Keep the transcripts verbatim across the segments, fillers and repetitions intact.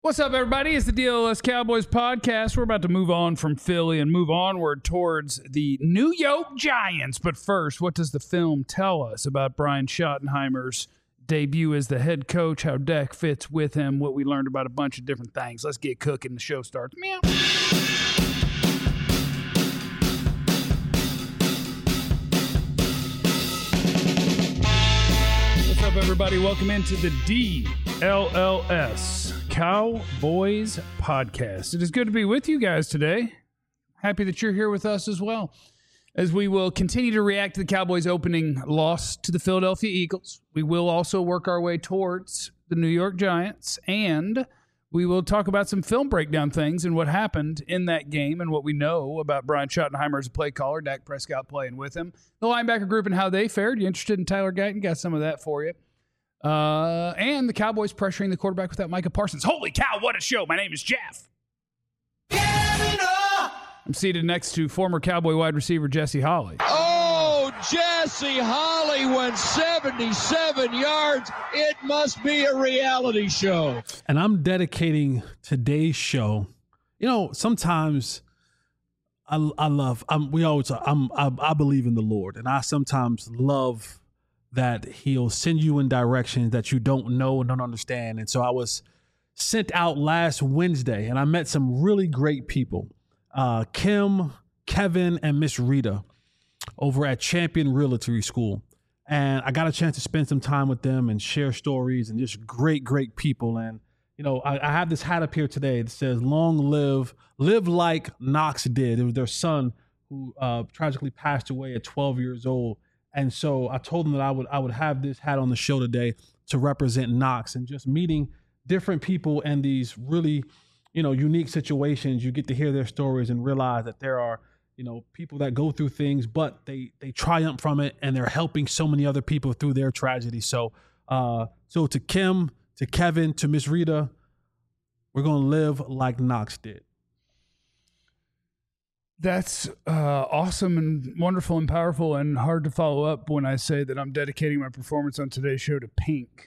What's up, everybody? It's the D L S Cowboys podcast. We're about to move on from Philly and move onward towards the New York Giants. But first, what does the film tell us about Brian Schottenheimer's debut as the head coach, how Dak fits with him, what we learned about a bunch of different things? Let's get cooking. The show starts. Meow. What's up, everybody? Welcome into the D L L S Cowboys podcast. It is good to be with you guys today. Happy that you're here with us as well, as we will continue to react to the Cowboys' opening loss to the Philadelphia Eagles. We will also work our way towards the New York Giants, and we will talk about some film breakdown things and what happened in that game and what we know about Brian Schottenheimer as a play caller, Dak Prescott playing with him, the linebacker group and how they fared. You interested in Tyler Guyton? Got some of that for you. Uh, and the Cowboys pressuring the quarterback without Micah Parsons. Holy cow, what a show. My name is Jeff. I'm seated next to former Cowboy wide receiver Jesse Holley. Oh, Jesse Holley went seventy-seven yards. It must be a reality show. And I'm dedicating today's show. You know, sometimes I, I love, I'm, we always, I'm, I, I believe in the Lord. And I sometimes love that he'll send you in directions that you don't know and don't understand. And so I was sent out last Wednesday, and I met some really great people. Uh, Kim, Kevin, and Miss Rita over at Champion Realty School. And I got a chance to spend some time with them and share stories, and just great, great people. And, you know, I, I have this hat up here today that says, long live, live like Knox did. It was their son who uh, tragically passed away at twelve years old. And so I told them that I would I would have this hat on the show today to represent Knox, and just meeting different people in these really, you know, unique situations. You get to hear their stories and realize that there are, you know, people that go through things, but they they triumph from it, and they're helping so many other people through their tragedy. So, uh, so to Kim, to Kevin, to Miss Rita, we're gonna live like Knox did. That's uh, awesome and wonderful and powerful, and hard to follow up when I say that I'm dedicating my performance on today's show to Pink.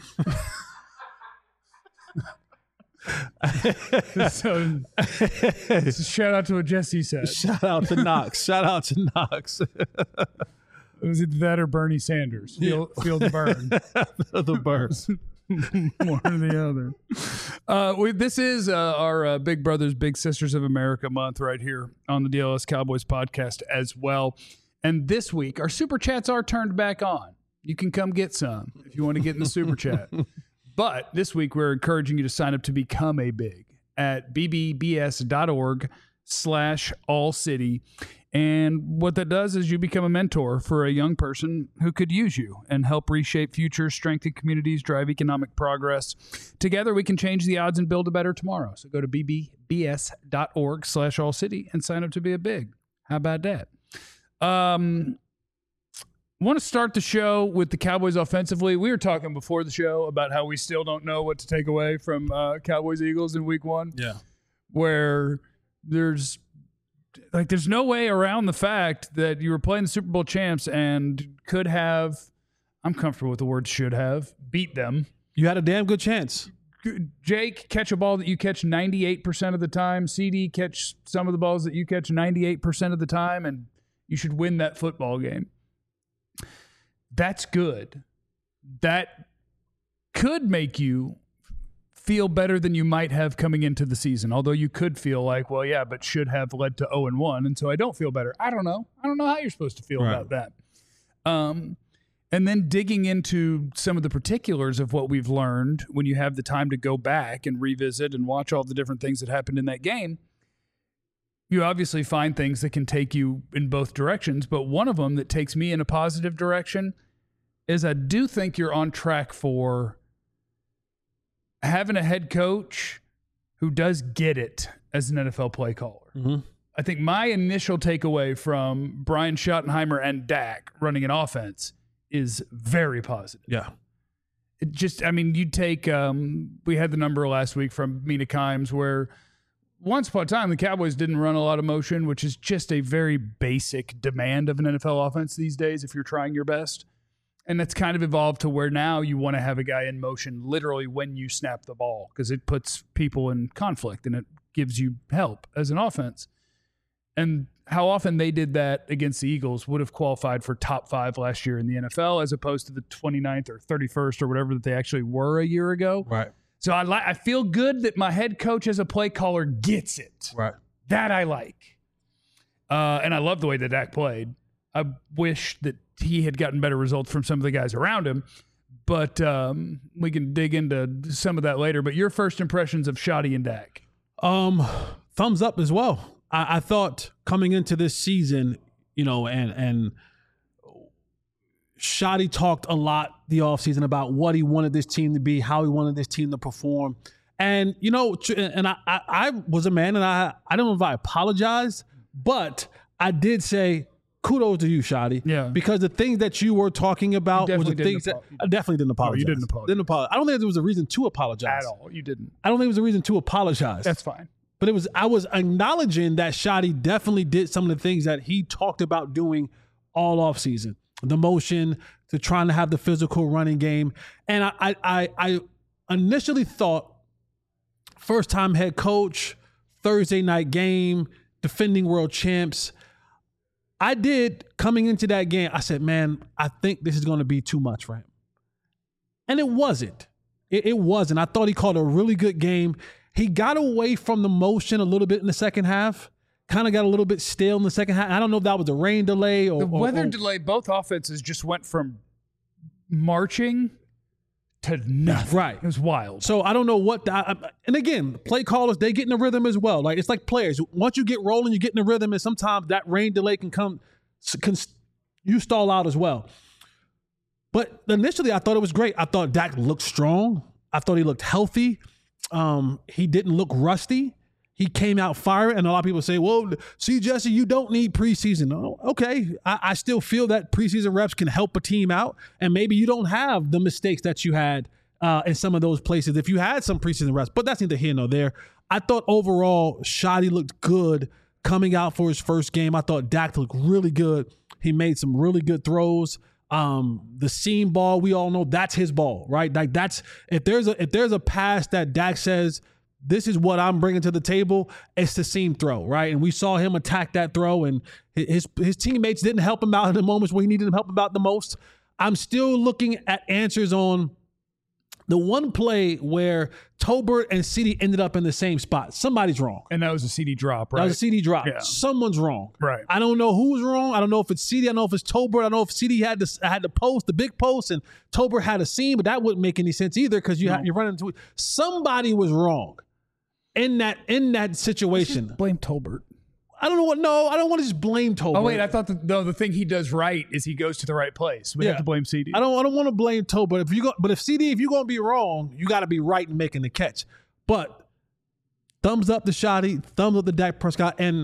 so, so shout out to what Jesse said. Shout out to Knox. Shout out to Knox. It was either that or Bernie Sanders. Feel, Yeah. feel the burn. The burns. One or the other. Uh, we, this is uh, our uh, Big Brothers, Big Sisters of America month right here on the D L S Cowboys podcast as well. And this week, our super chats are turned back on. You can come get some if you want to get in the super chat. But this week, we're encouraging you to sign up to become a big at bbbs.org slash all city. And what that does is you become a mentor for a young person who could use you and help reshape futures, strengthen communities, drive economic progress. Together, we can change the odds and build a better tomorrow. So go to bbbs.org slash all city and sign up to be a big. How about that? Um, want to start the show with the Cowboys offensively. We were talking before the show about how we still don't know what to take away from uh, Cowboys Eagles in week one. Yeah. Where there's like there's no way around the fact that you were playing the Super Bowl champs and could have, I'm comfortable with the word should have, beat them. You had a damn good chance. Jake, catch a ball that you catch ninety-eight percent of the time. C D, catch some of the balls that you catch ninety-eight percent of the time, and you should win that football game. That's good. That could make you feel better than you might have coming into the season, although you could feel like, well, yeah, but should have led to oh and one, and so I don't feel better. I don't know. I don't know how you're supposed to feel Right. about that. Um, and then digging into some of the particulars of what we've learned when you have the time to go back and revisit and watch all the different things that happened in that game, you obviously find things that can take you in both directions, but one of them that takes me in a positive direction is I do think you're on track for having a head coach who does get it as an N F L play caller. Mm-hmm. I think my initial takeaway from Brian Schottenheimer and Dak running an offense is very positive. Yeah. It just, I mean, you take, um, we had the number last week from Mina Kimes where once upon a time the Cowboys didn't run a lot of motion, which is just a very basic demand of an N F L offense these days if you're trying your best. And it's kind of evolved to where now you want to have a guy in motion literally when you snap the ball because it puts people in conflict and it gives you help as an offense. And how often they did that against the Eagles would have qualified for top five last year in the N F L as opposed to the twenty-ninth or thirty-first or whatever that they actually were a year ago. Right. So I like. I feel good that my head coach as a play caller gets it. Right. That I like. Uh, and I love the way that Dak played. I wish that he had gotten better results from some of the guys around him, but um, we can dig into some of that later. But your first impressions of Shotty and Dak? Um, thumbs up as well. I, I thought coming into this season, you know, and and Shotty talked a lot the offseason about what he wanted this team to be, how he wanted this team to perform. And, you know, and I, I, I was a man, and I, I don't know if I apologized, but I did say, kudos to you, Shotty. Yeah. Because the things that you were talking about was the things that I definitely didn't apologize. No, you didn't apologize. Didn't apologize. I don't think there was a reason to apologize. At all. You didn't. I don't think there was a reason to apologize. That's fine. But it was I was acknowledging that Shotty definitely did some of the things that he talked about doing all offseason. The motion, to trying to have the physical running game. And I I I, I initially thought first time head coach, Thursday night game, defending world champs. I did, coming into that game, I said, man, I think this is going to be too much for him. And it wasn't. It, it wasn't. I thought he called a really good game. He got away from the motion a little bit in the second half, kind of got a little bit stale in the second half. I don't know if that was a rain delay or... The weather or, or, delay, both offenses just went from marching to nothing. Right. It was wild. So I don't know what the, I, and again, play callers, they get in the rhythm as well. Like it's like players. Once you get rolling, you get in the rhythm, and sometimes that rain delay can come, can you stall out as well. But initially, I thought it was great. I thought Dak looked strong. I thought he looked healthy. Um, he didn't look rusty. He came out firing, and a lot of people say, well, see, Jesse, you don't need preseason. Oh, okay, I, I still feel that preseason reps can help a team out, and maybe you don't have the mistakes that you had uh, in some of those places if you had some preseason reps, but that's neither here nor there. I thought overall, Shotty looked good coming out for his first game. I thought Dak looked really good. He made some really good throws. Um, the seam ball, we all know that's his ball, right? Like that's if there's a if there's a pass that Dak says, this is what I'm bringing to the table, it's the seam throw, right? And we saw him attack that throw, and his his teammates didn't help him out in the moments where he needed him help him out the most. I'm still looking at answers on the one play where Tolbert and CeeDee ended up in the same spot. Somebody's wrong. And that was a CeeDee drop, right? That was a CeeDee drop. Yeah. Someone's wrong. Right. I don't know who's wrong. I don't know if it's CeeDee. I don't know if it's Tolbert. I don't know if CeeDee had the had the post, the big post, and Tolbert had a seam, but that wouldn't make any sense either because you No. ha- you're running into it. Somebody was wrong in that in that situation. Blame Tolbert. I don't know what. No, I don't want to just blame Tolbert. Oh, wait, I thought the, no, the thing he does right is he goes to the right place. We Yeah. have to blame CeeDee. I don't. I don't want to blame Tolbert. If you go, but if CeeDee, if you're going to be wrong, you got to be right in making the catch. But thumbs up to Shotty, thumbs up to Dak Prescott, and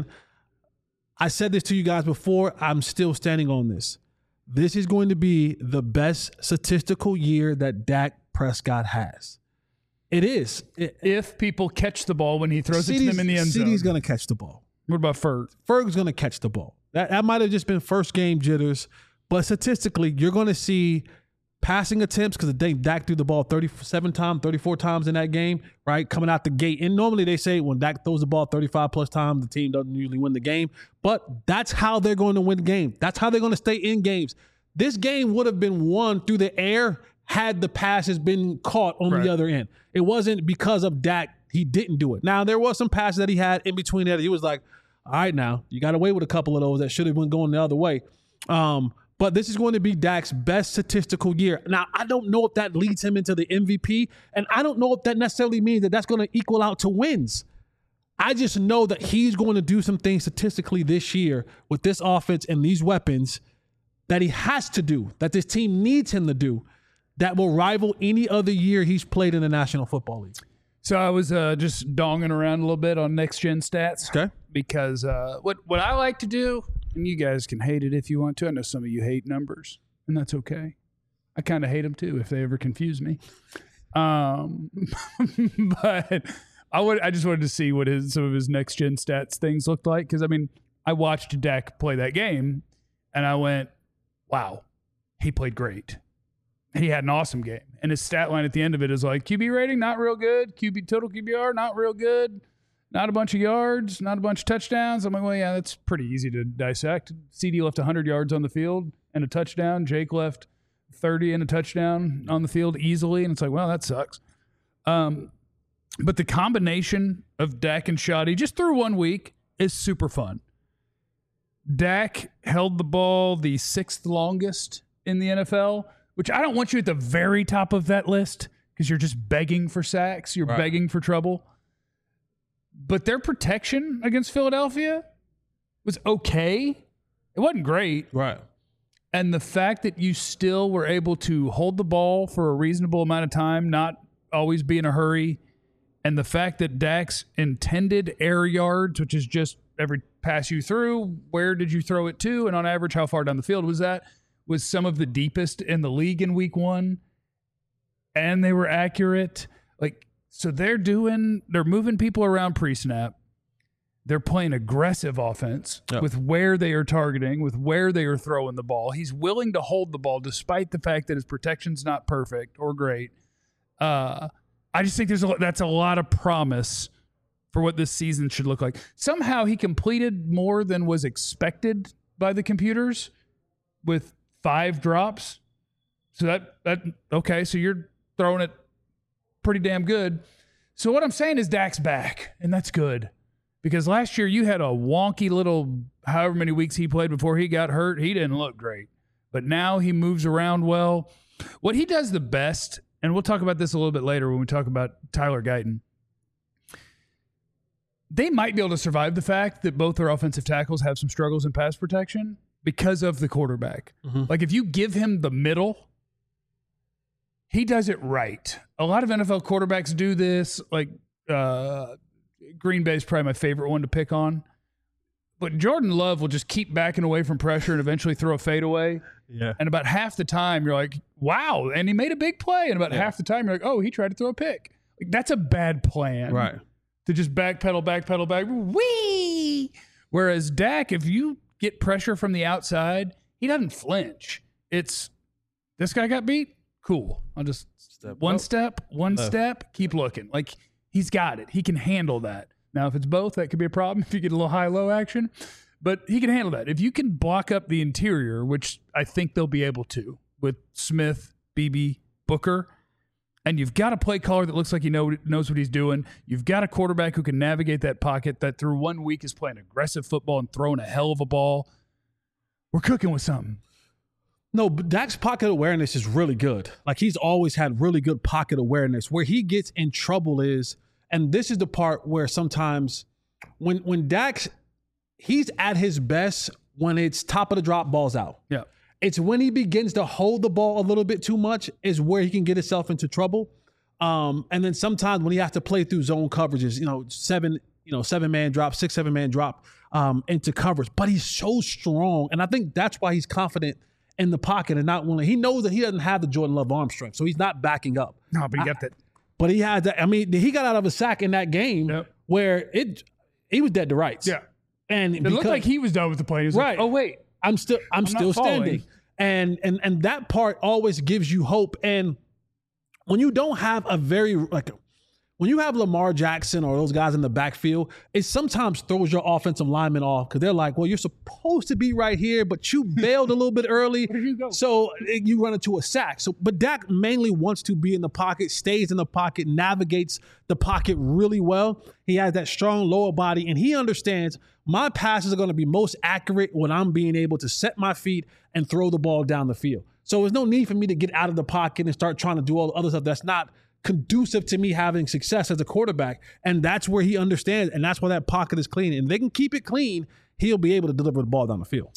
I said this to you guys before. I'm still standing on this. This is going to be the best statistical year that Dak Prescott has. It is. It, If people catch the ball when he throws it to them in the end zone. CeeDee's going to catch the ball. What about Ferg? Ferg's going to catch the ball. That, that might have just been first game jitters, but statistically, you're going to see passing attempts because Dak threw the ball thirty-seven times, thirty-four times in that game, right? Coming out the gate. And normally they say when Dak throws the ball thirty-five plus times, the team doesn't usually win the game. But that's how they're going to win the game. That's how they're going to stay in games. This game would have been won through the air had the passes been caught on Right. the other end. It wasn't because of Dak. He didn't do it. Now, there was some passes that he had in between that. He was like, all right, now, you got away with a couple of those that should have been going the other way. Um, but this is going to be Dak's best statistical year. Now, I don't know if that leads him into the M V P, and I don't know if that necessarily means that that's going to equal out to wins. I just know that he's going to do some things statistically this year with this offense and these weapons that he has to do, that this team needs him to do, that will rival any other year he's played in the National Football League. So I was uh, just donging around a little bit on Next Gen Stats. Okay. Because uh, what, what I like to do, and you guys can hate it if you want to. I know some of you hate numbers, and that's okay. I kind of hate them too if they ever confuse me. Um, but I would I just wanted to see what his some of his Next Gen Stats things looked like. Because, I mean, I watched Dak play that game, and I went, wow, he played great. he had an awesome game. And his stat line at the end of it is like, Q B rating, not real good. Q B total Q B R, not real good. Not a bunch of yards, not a bunch of touchdowns. I'm like, well, yeah, that's pretty easy to dissect. C D left one hundred yards on the field and a touchdown. Jake left thirty and a touchdown on the field easily. And it's like, well, that sucks. Um, but the combination of Dak and Shoddy just through one week is super fun. Dak held the ball the sixth longest in the N F L, which I don't want you at the very top of that list because you're just begging for sacks. You're right. begging for trouble. But their protection against Philadelphia was okay. It wasn't great. Right. And the fact that you still were able to hold the ball for a reasonable amount of time, not always be in a hurry, and the fact that Dak's intended air yards, which is just every pass you threw, where did you throw it to, and on average, how far down the field was that, was some of the deepest in the league in week one. And they were accurate. Like, so they're doing, they're moving people around pre-snap. They're playing aggressive offense yep. with where they are targeting, with where they are throwing the ball. He's willing to hold the ball despite the fact that his protection's not perfect or great. Uh, I just think there's a, that's a lot of promise for what this season should look like. Somehow he completed more than was expected by the computers with five drops. So that, that okay, so you're throwing it pretty damn good. So what I'm saying is Dak's back, and that's good. Because last year you had a wonky little however many weeks he played before he got hurt. He didn't look great. But now he moves around well. What he does the best, and we'll talk about this a little bit later when we talk about Tyler Guyton, they might be able to survive the fact that both their offensive tackles have some struggles in pass protection because of the quarterback. Mm-hmm. Like if you give him the middle, he does it right. A lot of N F L quarterbacks do this. Like uh, Green Bay is probably my favorite one to pick on. But Jordan Love will just keep backing away from pressure and eventually throw a fadeaway. Yeah. And about half the time, you're like, wow. And he made a big play. And about yeah. half the time, you're like, oh, he tried to throw a pick. Like, that's a bad plan. Right. To just backpedal, backpedal, back. Whee! Whereas Dak, if you get pressure from the outside, he doesn't flinch. It's, this guy got beat? Cool. I'll just step one up. step, one Left. step, keep looking. Like, he's got it. He can handle that. Now, if it's both, that could be a problem if you get a little high-low action. But he can handle that. If you can block up the interior, which I think they'll be able to with Smith, Beebe, Booker, and you've got a play caller that looks like he know, knows what he's doing. You've got a quarterback who can navigate that pocket that through one week is playing aggressive football and throwing a hell of a ball. We're cooking with something. No, but Dak's pocket awareness is really good. Like, he's always had really good pocket awareness. Where he gets in trouble is, and this is the part where sometimes when when Dak's, he's at his best when it's top of the drop, balls out. Yeah. It's when he begins to hold the ball a little bit too much is where he can get himself into trouble. Um, and then sometimes when he has to play through zone coverages, you know, seven, you know, seven man drop, six, seven man drop um, into coverage. But he's so strong. And I think that's why he's confident in the pocket and not willing. He knows that he doesn't have the Jordan Love arm strength, so he's not backing up. No, but he got that. But he had that. I mean, he got out of a sack in that game yep. where it he was dead to rights. Yeah. And it because, looked like he was done with the play. He was right. like, oh, wait. I'm still I'm, I'm still standing. And and and that part always gives you hope. And when you don't have a very like when you have Lamar Jackson or those guys in the backfield, it sometimes throws your offensive lineman off because they're like, well, you're supposed to be right here, but you bailed a little bit early. Where did you go? So you run into a sack. So, but Dak mainly wants to be in the pocket, stays in the pocket, navigates the pocket really well. He has that strong lower body, and he understands my passes are going to be most accurate when I'm being able to set my feet and throw the ball down the field. So there's no need for me to get out of the pocket and start trying to do all the other stuff that's not conducive to me having success as a quarterback. And that's where he understands, and that's why that pocket is clean. And if they can keep it clean, he'll be able to deliver the ball down the field.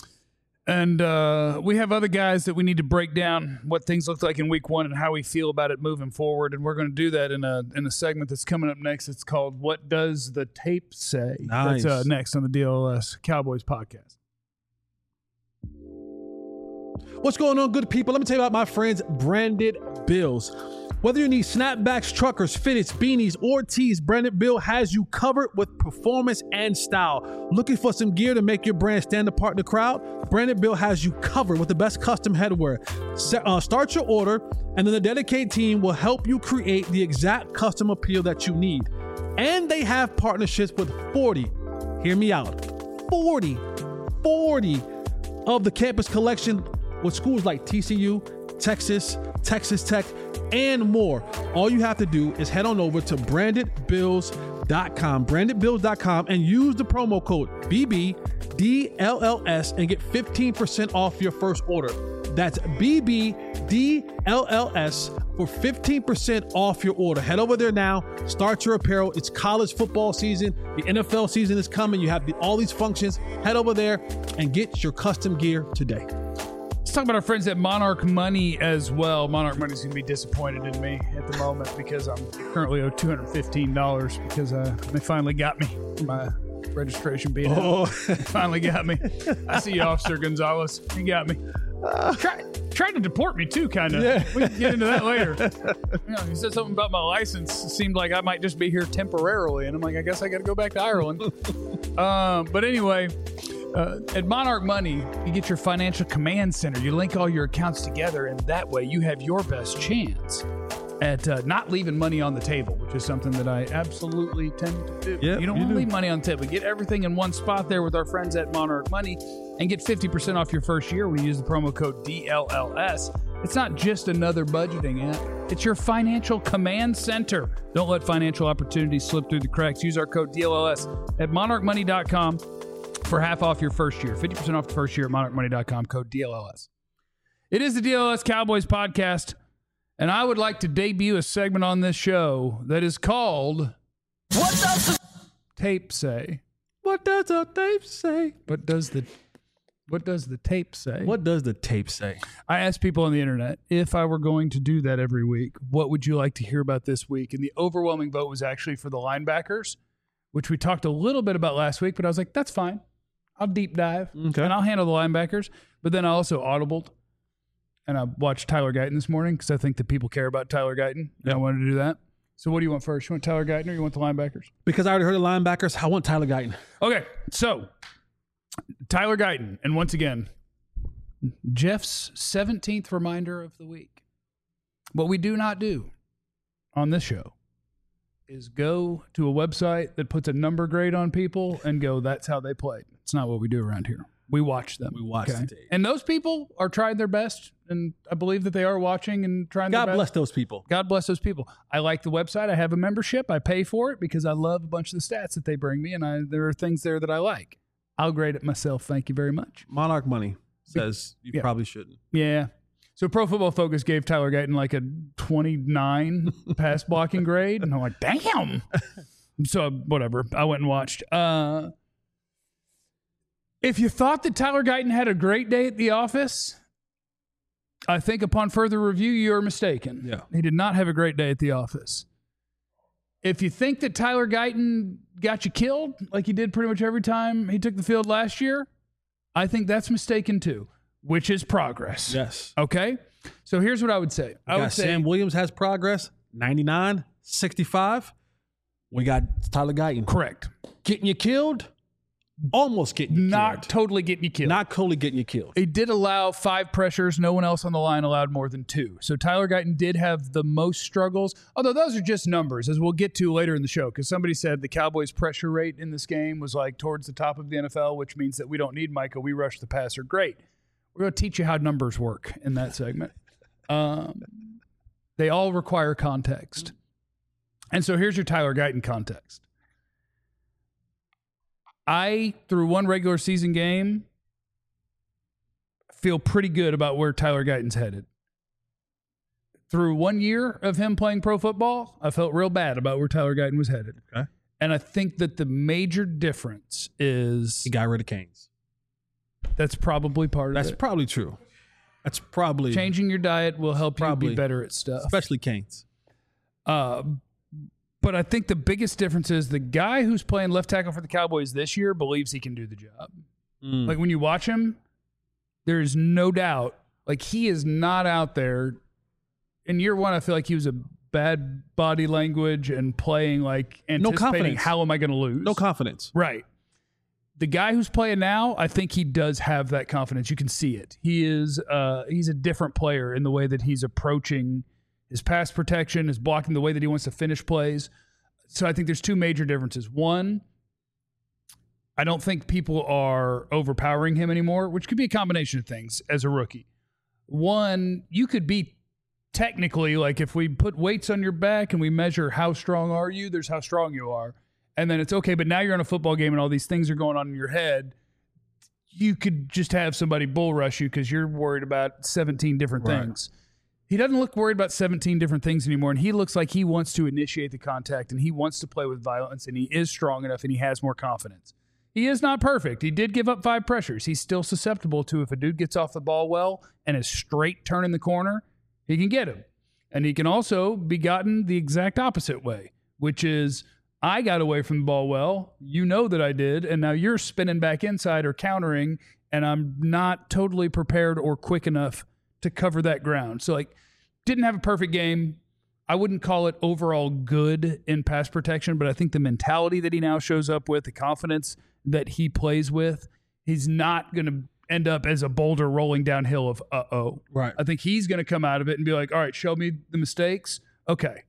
And uh, we have other guys that we need to break down what things look like in week one and how we feel about it moving forward. And we're going to do that in a in a segment that's coming up next. It's called What Does the Tape Say? Nice. That's uh, next on the D L S Cowboys podcast. What's going on, good people? Let me tell you about my friends, Branded Bills. Whether you need snapbacks, truckers, fitteds, beanies, or tees, Branded Bill has you covered with performance and style. Looking for some gear to make your brand stand apart in the crowd? Branded Bill has you covered with the best custom headwear. Set, uh, start your order, and then the dedicated team will help you create the exact custom appeal that you need. And they have partnerships with forty, hear me out, forty, forty of the campus collection with schools like T C U, Texas, Texas Tech, and more. All you have to do is head on over to branded bills dot com, branded bills dot com, and use the promo code B B D L L S and get fifteen percent off your first order. That's B B D L L S for fifteen percent off your order. Head over there now, start your apparel. It's college football season. The N F L season is coming. You have the, all these functions. Head over there and get your custom gear today. Let's talk about our friends at Monarch Money as well. Monarch Money's going to be disappointed in me at the moment because I'm currently owed two hundred fifteen dollars because uh, they finally got me for my registration being Oh. out. They finally got me. I see you, Officer Gonzalez. He got me. Uh, Try, tried to deport me too, kind of. Yeah. We can get into that later. You know, he said something about my license. It seemed like I might just be here temporarily, and I'm like, I guess I got to go back to Ireland. um, but anyway, uh, at Monarch Money, you get your financial command center. You link all your accounts together, and that way you have your best chance at uh, not leaving money on the table, which is something that I absolutely tend to do. Yep, you don't you want to do. leave money on the table. Get everything in one spot there with our friends at Monarch Money and get fifty percent off your first year when you use the promo code D L L S. It's not just another budgeting app. It's your financial command center. Don't let financial opportunities slip through the cracks. Use our code D L L S at monarch money dot com for half off your first year. fifty percent off the first year at monarch money dot com, code D L L S. It is the D L L S Cowboys podcast, and I would like to debut a segment on this show that is called What Does the Tape Say? What does the tape say? What does the What does the tape say? What does the tape say? I asked people on the internet if I were going to do that every week, what would you like to hear about this week? And the overwhelming vote was actually for the linebackers, which we talked a little bit about last week, but I was like, that's fine. I'll deep dive Okay. and I'll handle the linebackers. But then I also audibled and I watched Tyler Guyton this morning because I think that people care about Tyler Guyton. And I wanted to do that. So what do you want first? You want Tyler Guyton or you want the linebackers? Because I already heard the linebackers, I want Tyler Guyton. Okay, so Tyler Guyton, and once again, Jeff's seventeenth reminder of the week. What we do not do on this show is go to a website that puts a number grade on people and go, that's how they played. It's not what we do around here. We watch them. We watch the tape. And those people are trying their best, and I believe that they are watching and trying God their best. bless those people. God bless those people. I like the website. I have a membership. I pay for it because I love a bunch of the stats that they bring me, and I, there are things there that I like. I'll grade it myself. Thank you very much. Monarch Money says you Yeah. probably shouldn't. Yeah. So Pro Football Focus gave Tyler Guyton like a twenty-nine pass blocking grade, and I'm like, damn. So whatever. I went and watched. Uh, if you thought that Tyler Guyton had a great day at the office, I think upon further review, you're mistaken. Yeah. He did not have a great day at the office. If you think that Tyler Guyton got you killed, like he did pretty much every time he took the field last year, I think that's mistaken too, which is progress. Yes. Okay? So here's what I would say. I We would got say Sam Williams has progress, ninety-nine, sixty-five. We got Tyler Guyton. correct. Getting you killed, almost getting you Not killed. totally getting you killed. Not totally getting you killed. He did allow five pressures. No one else on the line allowed more than two. So Tyler Guyton did have the most struggles, although those are just numbers, as we'll get to later in the show, because somebody said the Cowboys' pressure rate in this game was like towards the top of the N F L, which means that we don't need Micah. We rush the passer. Great. We're going to teach you how numbers work in that segment. Um, they all require context. And so here's your Tyler Guyton context. I, through one regular season game, feel pretty good about where Tyler Guyton's headed. Through one year of him playing pro football, I felt real bad about where Tyler Guyton was headed. Okay. And I think that the major difference is He got rid of Canes. that's probably part of That's it. probably true. That's probably Changing your diet will help you Probably. be better at stuff. especially Canes. Uh, but I think the biggest difference is the guy who's playing left tackle for the Cowboys this year believes he can do the job. Mm. Like when you watch him, there is no doubt. Like, he is not out there. In year one, I feel like he was a bad body language and playing like anticipating no confidence. How am I going to lose? No confidence. Right. The guy who's playing now, I think he does have that confidence. You can see it. He is uh, he's a different player in the way that he's approaching his pass protection, his blocking, the way that he wants to finish plays. So I think there's two major differences. One, I don't think people are overpowering him anymore, which could be a combination of things as a rookie. One, you could be technically, like if we put weights on your back and we measure how strong are you, there's how strong you are. And then it's okay, but now you're in a football game and all these things are going on in your head. You could just have somebody bull rush you because you're worried about seventeen different right. things. He doesn't look worried about seventeen different things anymore, and he looks like he wants to initiate the contact, and he wants to play with violence, and he is strong enough, and he has more confidence. He is not perfect. He did give up five pressures. He's still susceptible to, if a dude gets off the ball well and is straight turning the corner, he can get him. And he can also be gotten the exact opposite way, which is, I got away from the ball well, you know that I did, and now you're spinning back inside or countering, and I'm not totally prepared or quick enough to cover that ground. So, like, didn't have a perfect game. I wouldn't call it overall good in pass protection, but I think the mentality that he now shows up with, the confidence that he plays with, he's not going to end up as a boulder rolling downhill of uh-oh. Right. I think he's going to come out of it and be like, all right, show me the mistakes. Okay.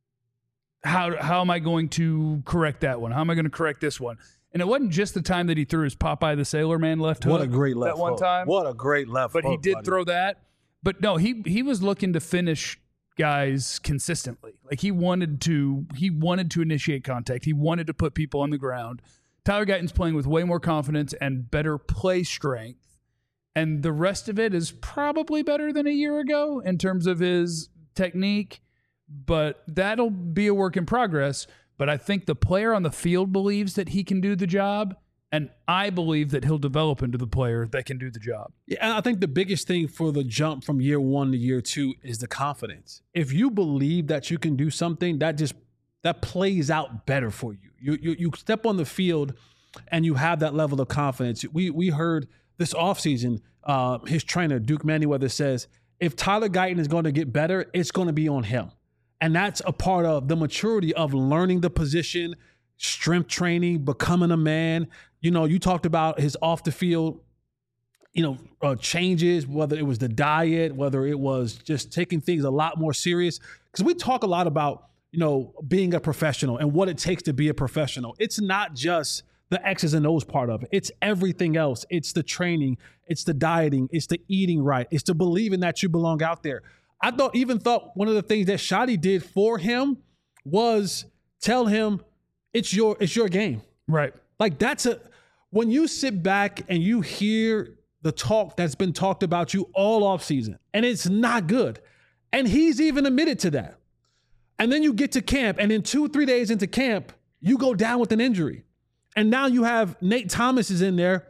How how am I going to correct that one? How am I going to correct this one? And it wasn't just the time that he threw his Popeye the Sailor Man left hook. What a great left that one hook. time. What a great left but hook. But he did buddy. throw that. But no, he he was looking to finish guys consistently. Like he wanted to he wanted to initiate contact. He wanted to put people on the ground. Tyler Guyton's playing with way more confidence and better play strength. And the rest of it is probably better than a year ago in terms of his technique. But that'll be a work in progress. But I think the player on the field believes that he can do the job, and I believe that he'll develop into the player that can do the job. Yeah, and I think the biggest thing for the jump from year one to year two is the confidence. If you believe that you can do something, that just that plays out better for you. You you, you step on the field and you have that level of confidence. We we heard this offseason, uh, his trainer, Duke Manyweather, says, if Tyler Guyton is going to get better, it's going to be on him. And that's a part of the maturity of learning the position, strength training, becoming a man. You know, you talked about his off the field, you know, uh, changes, whether it was the diet, whether it was just taking things a lot more serious. Because we talk a lot about, you know, being a professional and what it takes to be a professional. It's not just the X's and O's part of it. It's everything else. It's the training. It's the dieting. It's the eating right. It's the believing that you belong out there. I thought, even thought one of the things that Shotty did for him was tell him it's your it's your game. Right. Like that's a when you sit back and you hear the talk that's been talked about you all off season, and it's not good. And he's even admitted to that. And then you get to camp, and then two, three days into camp, you go down with an injury. And now you have Nate Thomas is in there,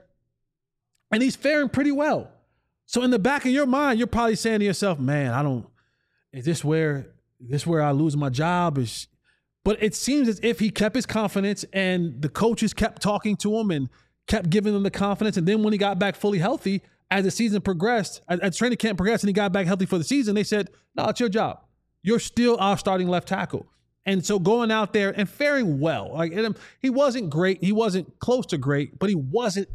and he's faring pretty well. So in the back of your mind, you're probably saying to yourself, man, I don't, is this where, is this where I lose my job? Is, but it seems as if he kept his confidence and the coaches kept talking to him and kept giving him the confidence. And then when he got back fully healthy, as the season progressed, as, as training camp progressed and he got back healthy for the season, they said, no, it's your job. You're still our starting left tackle. And so going out there and faring well, like he wasn't great. He wasn't close to great, but he wasn't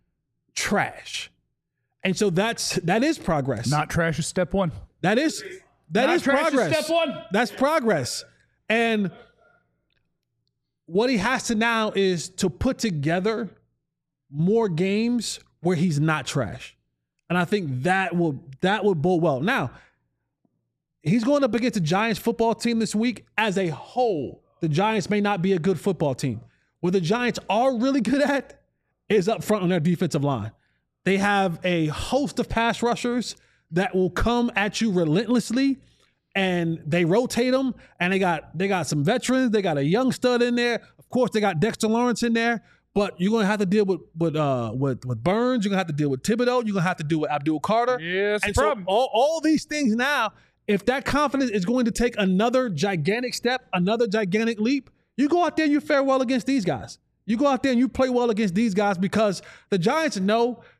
trash. And so that's that is progress. Not trash is step one. That is that Not is trash progress. Is step one. That's progress. And what he has to now is to put together more games where he's not trash. And I think that will that will bode well. Now, he's going up against the Giants football team this week. As a whole, the Giants may not be a good football team. What the Giants are really good at is up front on their defensive line. They have a host of pass rushers that will come at you relentlessly, and they rotate them. And they got they got some veterans. They got a young stud in there. Of course, they got Dexter Lawrence in there. But you're gonna have to deal with with uh with, with Burns. You're gonna have to deal with Thibodeau. You're gonna have to deal with Abdul Carter. Yeah, that's and the problem. So all, all these things now, if that confidence is going to take another gigantic step, another gigantic leap, you go out there and you fare well against these guys. You go out there and you play well against these guys because the Giants know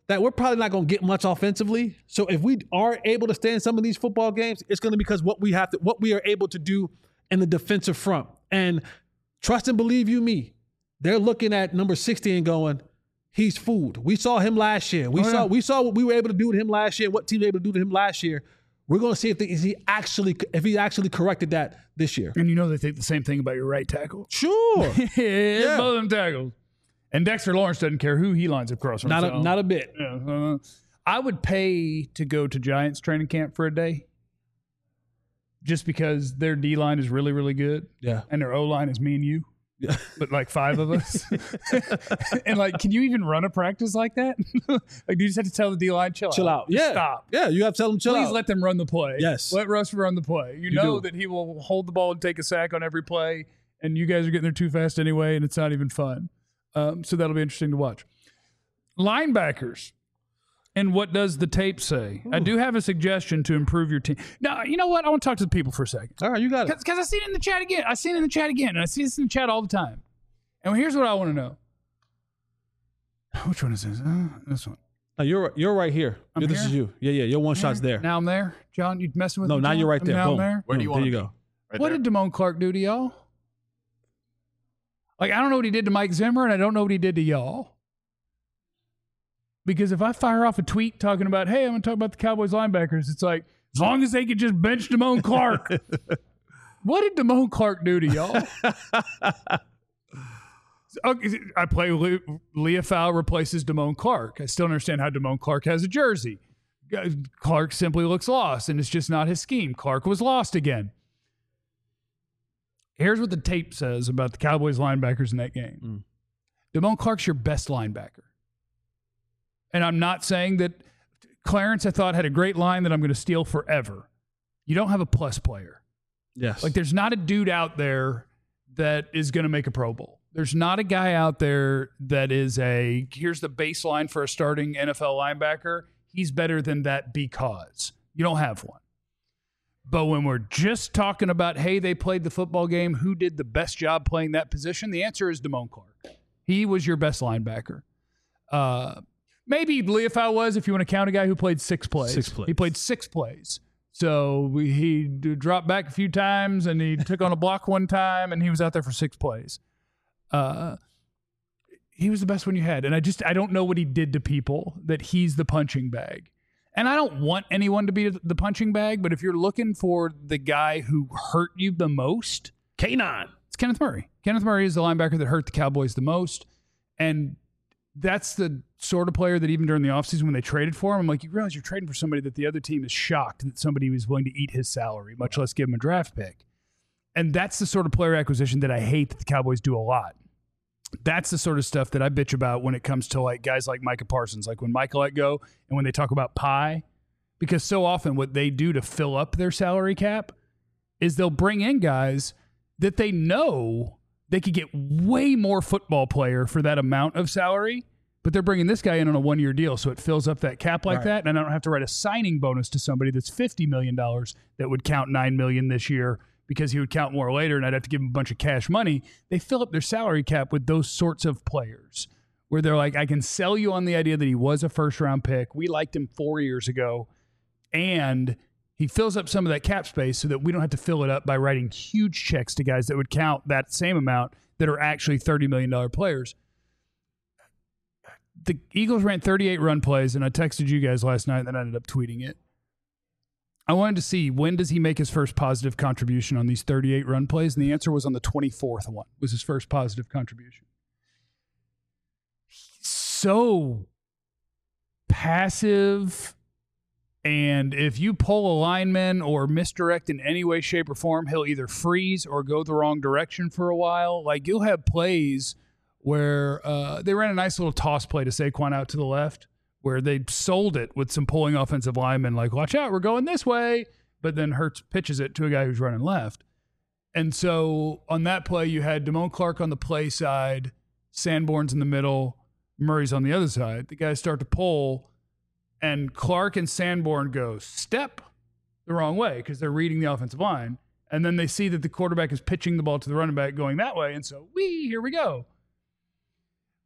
that we're probably not going to get much offensively. So if we are able to stay in some of these football games, it's going to be because what we have to, what we are able to do in the defensive front. And trust and believe you me, they're looking at number sixty and going, he's food. We saw him last year. We oh, saw yeah. we saw what we were able to do with him last year. What team was able to do to him last year. We're going to see if, the, if he actually if he actually corrected that this year. And you know they think the same thing about your right tackle. Sure, yeah, Yeah. both of them tackles. And Dexter Lawrence doesn't care who he lines across from. not so, a, not a bit. Yeah, uh, I would pay to go to Giants training camp for a day, just because their D line is really really good. Yeah, and their O line is me and you. Yeah. But like five of us. And like, can you even run a practice like that? Like, do you just have to tell the D line, chill, chill out. Just Yeah, stop. Yeah, you have to tell them chill Please out. let them run the play. Yes. Let Russ run the play. You, You know do. that he will hold the ball and take a sack on every play, and you guys are getting there too fast anyway, and it's not even fun. Um, so that'll be interesting to watch. Linebackers. And what does the tape say? Ooh. I do have a suggestion to improve your team. Now, you know what? I want to talk to the people for a second. All right, you got it. Because I see it in the chat again. I see it in the chat again, and I see this in the chat all the time. And here's what I want to know. Which one is this? Uh, this one. No, you're you're right here. I'm this here? is you. Yeah, yeah. Your one Here? shot's there. Now I'm there. John, you messing with no, me? now John? you're right there. Now Boom. I'm there. Where do you Boom. want There to you be? go. Right What there. did Damone Clark do to y'all? Like, I don't know what he did to Mike Zimmer, and I don't know what he did to y'all. Because if I fire off a tweet talking about, hey, I'm going to talk about the Cowboys linebackers, it's like, as long as they could just bench Damone Clark. What did Damone Clark do to y'all? Okay, I play Le- Leah Fowl replaces Damone Clark. I still don't understand how Damone Clark has a jersey. Clark simply looks lost, and it's just not his scheme. Clark was lost again. Here's what the tape says about the Cowboys linebackers in that game. Mm. Damone Clark's your best linebacker. And I'm not saying that Clarence, I thought, had a great line that I'm going to steal forever. You don't have a plus player. Yes. Like, there's not a dude out there that is going to make a Pro Bowl. There's not a guy out there that is a, here's the baseline for a starting N F L linebacker. He's better than that because you don't have one. But when we're just talking about, hey, they played the football game, who did the best job playing that position? The answer is Damone Clark. He was your best linebacker. Uh, maybe Leofau was, if you want to count a guy who played six plays. Six plays. He played six plays. So we, he d- dropped back a few times, and he took on a block one time, and he was out there for six plays. Uh, he was the best one you had. And I just, I don't know what he did to people, that he's the punching bag. And I don't want anyone to be the punching bag, but if you're looking for the guy who hurt you the most, K nine. It's Kenneth Murray. Kenneth Murray is the linebacker that hurt the Cowboys the most. And that's the sort of player that even during the offseason when they traded for him, I'm like, you realize you're trading for somebody that the other team is shocked that somebody was willing to eat his salary, much less give him a draft pick. And that's the sort of player acquisition that I hate that the Cowboys do a lot. That's the sort of stuff that I bitch about when it comes to like guys like Micah Parsons, like when Micah let go and when they talk about pie, because so often what they do to fill up their salary cap is they'll bring in guys that they know they could get way more football player for that amount of salary, but they're bringing this guy in on a one-year deal, so it fills up that cap like Right. that, and I don't have to write a signing bonus to somebody that's fifty million dollars that would count nine million dollars this year because he would count more later, and I'd have to give him a bunch of cash money. They fill up their salary cap with those sorts of players where they're like, I can sell you on the idea that he was a first-round pick. We liked him four years ago, and he fills up some of that cap space so that we don't have to fill it up by writing huge checks to guys that would count that same amount that are actually thirty million dollars players. The Eagles ran thirty-eight run plays, and I texted you guys last night, and then I ended up tweeting it. I wanted to see, when does he make his first positive contribution on these thirty-eight run plays? And the answer was on the twenty-fourth one, was his first positive contribution. He's so passive, and if you pull a lineman or misdirect in any way, shape, or form, he'll either freeze or go the wrong direction for a while. Like, you'll have plays where uh, they ran a nice little toss play to Saquon out to the left, where they sold it with some pulling offensive linemen, like, watch out, we're going this way. But then Hurts pitches it to a guy who's running left. And so on that play, you had Damone Clark on the play side, Sanborn's in the middle, Murray's on the other side. The guys start to pull, and Clark and Sanborn go step the wrong way because they're reading the offensive line. And then they see that the quarterback is pitching the ball to the running back going that way. And so, wee, here we go.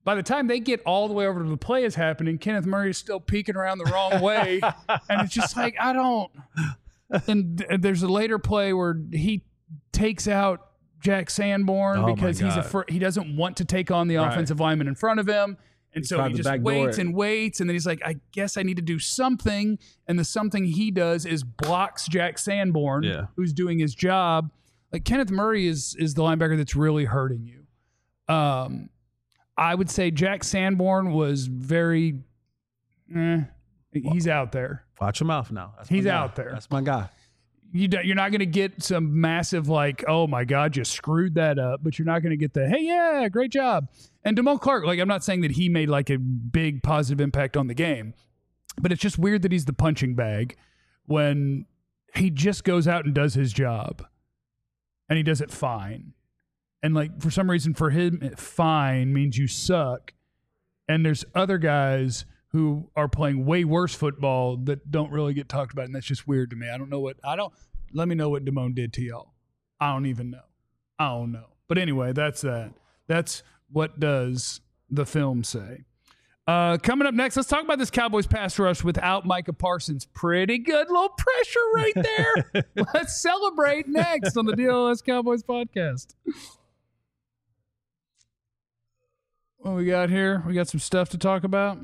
by the time they get all the way over to the play is happening, Kenneth Murray is still peeking around the wrong way. And it's just like, I don't. And there's a later play where he takes out Jack Sanborn Oh, because my he's a God. fir- he doesn't want to take on the Right. offensive lineman in front of him. And He so tried he to just backdoor waits it. and waits. And then he's like, I guess I need to do something. And the something he does is blocks Jack Sanborn, Yeah. who's doing his job. Like Kenneth Murray is is the linebacker that's really hurting you. Um, I would say Jack Sanborn was very, eh, he's out there. Watch your mouth now. That's my He's guy. out there. That's my guy. You don't, you're not going to get some massive like, oh my God, you screwed that up. But you're not going to get the, hey, yeah, great job. And Damone Clark, like I'm not saying that he made like a big positive impact on the game, but it's just weird that he's the punching bag when he just goes out and does his job and he does it fine. And like for some reason for him, fine means you suck. And there's other guys who are playing way worse football that don't really get talked about. And that's just weird to me. I don't know what, I don't, let me know what Damone did to y'all. I don't even know. I don't know. But anyway, that's that. That's what does the film say. Uh, coming up next, let's talk about this Cowboys pass rush without Micah Parsons. Pretty good little pressure right there. Let's celebrate next on the D L S Cowboys podcast. What we got here? We got some stuff to talk about.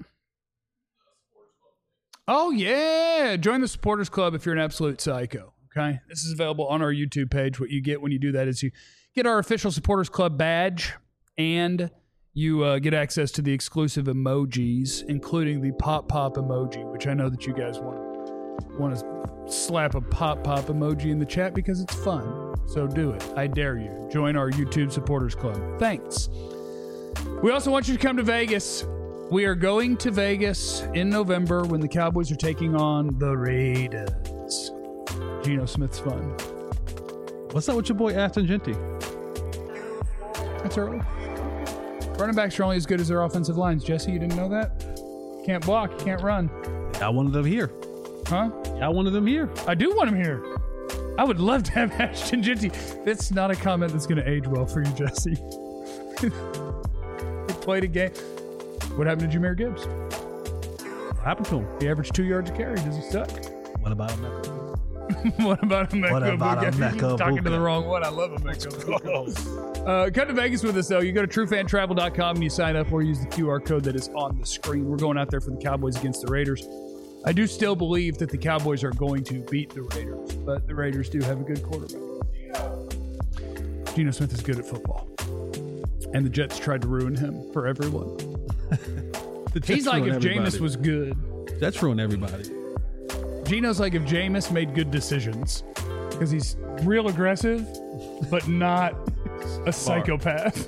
Oh, yeah. Join the Supporters Club if you're an absolute psycho. Okay. This is available on our YouTube page. What you get when you do that is you get our official Supporters Club badge and you uh, get access to the exclusive emojis, including the pop pop emoji, which I know that you guys want want to slap a pop pop emoji in the chat because it's fun. So do it. I dare you. Join our YouTube Supporters Club. Thanks. We also want you to come to Vegas. We are going to Vegas in November when the Cowboys are taking on the Raiders. Geno Smith's fun. What's up with your boy Aston Genty? That's early. Running backs are only as good as their offensive lines. Jesse, you didn't know that? Can't block, you can't run. I wanted them here. Huh? I wanted them here. I do want him here. I would love to have Ashton Genty. That's not a comment that's going to age well for you, Jesse. He played a game. What happened to Jahmyr Gibbs? What happened to him? He averaged two yards a carry. Does he suck? What about him? What about Emeka What about Egbuka? Emeka Talking to the Egbuka? wrong one. I love Emeka Egbuka. Uh, come to Vegas with us, though. You go to true fan travel dot com and you sign up or use the Q R code that is on the screen. We're going out there for the Cowboys against the Raiders. I do still believe that the Cowboys are going to beat the Raiders, but the Raiders do have a good quarterback. Geno Smith is good at football. And the Jets tried to ruin him for everyone. The Jets He's like ruin if everybody. Jameis was good. Jets ruin everybody. Geno's like if Jameis made good decisions because he's real aggressive, but not a psychopath.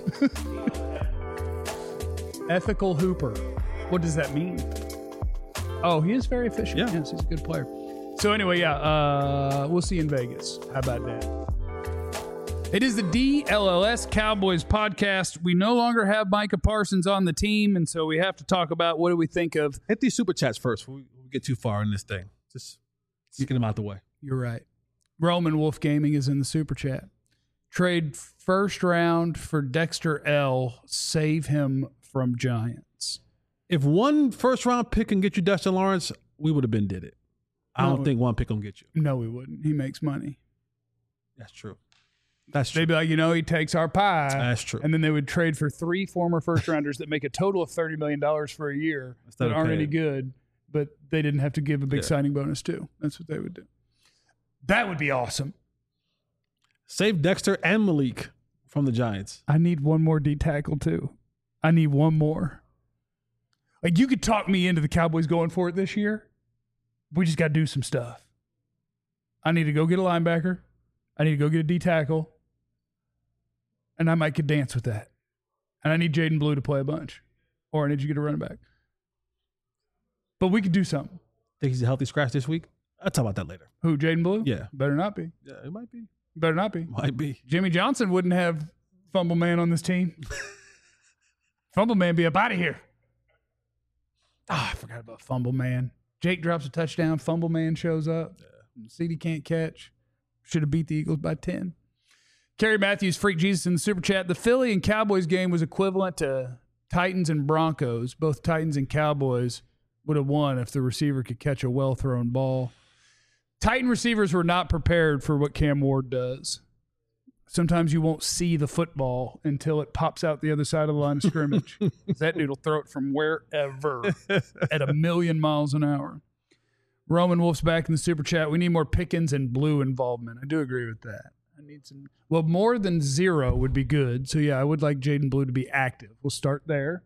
Ethical Hooper. What does that mean? Oh, he is very efficient. Yeah. Yes, he's a good player. So anyway, yeah, uh, we'll see you in Vegas. How about that? It is the D L L S Cowboys podcast. We no longer have Micah Parsons on the team, and so we have to talk about what do we think of. Hit these super chats first before we get too far in this thing. Just, just get them out the way. You're right. Roman Wolf Gaming is in the super chat. Trade first round for Dexter L. Save him from Giants. If one first round pick can get you Dexter Lawrence, we would have been did it. I No. don't think one pick will get you. No, we wouldn't. He makes money. That's true. That's true. They'd be like, you know, he takes our pie. That's true. And then they would trade for three former first rounders that make a total of thirty million dollars for a year Instead that of aren't paying. any good, but they didn't have to give a big Yeah. signing bonus too. That's what they would do. That would be awesome. Save Dexter and Malik from the Giants. I need one more D tackle too. I need one more. Like you could talk me into the Cowboys going for it this year. We just got to do some stuff. I need to go get a linebacker. I need to go get a D tackle. And I might could dance with that. And I need Jaden Blue to play a bunch. Or I need you to get a running back. But we could do something. Think he's a healthy scratch this week? I'll talk about that later. Who, Jaden Blue? Yeah. Better not be. Yeah, it might be. Better not be. Might be. Jimmy Johnson wouldn't have Fumble Man on this team. Fumble Man be up out of here. Ah, I forgot about Fumble Man. Jake drops a touchdown. Fumble Man shows up. Yeah. C D can't catch. Should have beat the Eagles by ten. Kerry Matthews, Freak Jesus in the super chat. The Philly and Cowboys game was equivalent to Titans and Broncos, both Titans and Cowboys, would have won if the receiver could catch a well-thrown ball. Titan receivers were not prepared for what Cam Ward does. Sometimes you won't see the football until it pops out the other side of the line of scrimmage. That dude will throw it from wherever at a million miles an hour. Roman Wolf's back in the super chat. We need more Pickens and Blue involvement. I do agree with that. I need some. Well, more than zero would be good. So, yeah, I would like Jaden Blue to be active. We'll start there.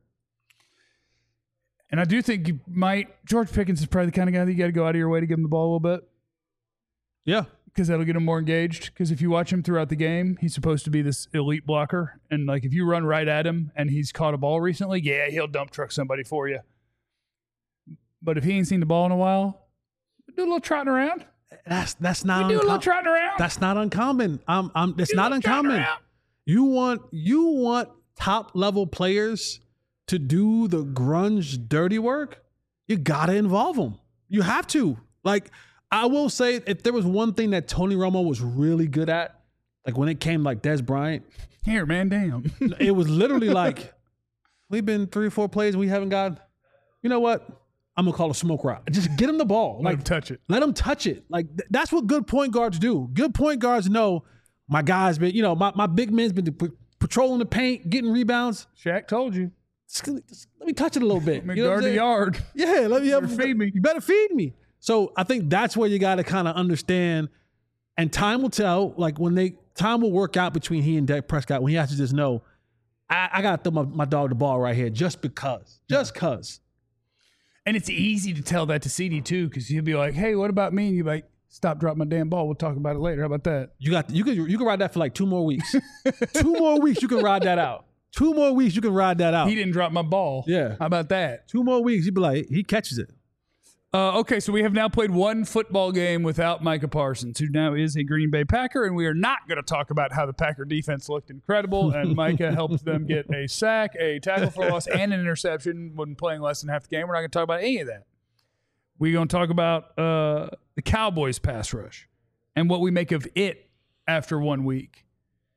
And I do think you might. George Pickens is probably the kind of guy that you got to go out of your way to give him the ball a little bit. Yeah. Because that'll get him more engaged. Because if you watch him throughout the game, he's supposed to be this elite blocker. And, like, if you run right at him and he's caught a ball recently, yeah, he'll dump truck somebody for you. But if he ain't seen the ball in a while, do a little trotting around. That's that's not. We do uncom- a little trotting around. That's not uncommon. Um, um, it's Do a not little trotting uncommon. around. You want you want top level players to do the grunge dirty work. You gotta involve them. You have to. Like, I will say, if there was one thing that Tony Romo was really good at, like when it came like Des Bryant, Here, man, damn. it was literally like, we've been three or four plays and we haven't got. You know what? I'm gonna call a smoke route. Just get him the ball. Let Like him touch it. Let him touch it. Like th- that's what good point guards do. Good point guards know my guy's been, you know, my, my big man's been p- patrolling the paint, getting rebounds. Shaq told you. Just, just let me touch it a little bit. Let me You know what guard I'm the saying? yard. Yeah, let me better feed me. You better feed me. So I think that's where you got to kind of understand, and time will tell. Like when they time will work out between he and Dak Prescott when he has to just know, I, I got to throw my, my dog the ball right here just because, just cause. And it's easy to tell that to C D too, because he'll be like, "Hey, what about me?" And you're like, "Stop, drop my damn ball. We'll talk about it later. How about that?" You got you can you can ride that for like two more weeks. two more weeks you can ride that out. Two more weeks you can ride that out. He didn't drop my ball. Yeah. How about that? Two more weeks, you'd be like, he catches it. Uh, okay, so we have now played one football game without Micah Parsons, who now is a Green Bay Packer, and we are not going to talk about how the Packer defense looked incredible, and Micah helped them get a sack, a tackle for loss, and an interception when playing less than half the game. We're not going to talk about any of that. We're going to talk about uh, the Cowboys pass rush and what we make of it after one week.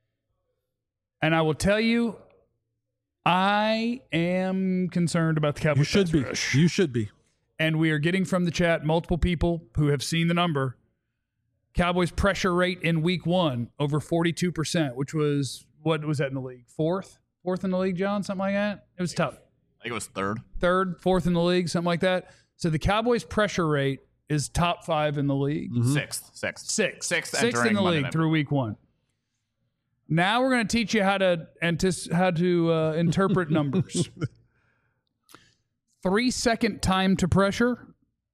And I will tell you, I am concerned about the Cowboys You should pass be. rush. You should be. And we are getting from the chat multiple people who have seen the number. Cowboys pressure rate in week one over forty-two percent, which was, what was that in the league? Fourth? Fourth in the league, John? Something like that? It was tough. I think it was third. Third, fourth in the league, something like that. So the Cowboys pressure rate is top five in the league. Mm-hmm. Sixth. Sixth. Sixth. Sixth Sixth entering in the Monday league Night through week one. Now we're going to teach you how to antis- how to uh, interpret numbers. Three second time to pressure.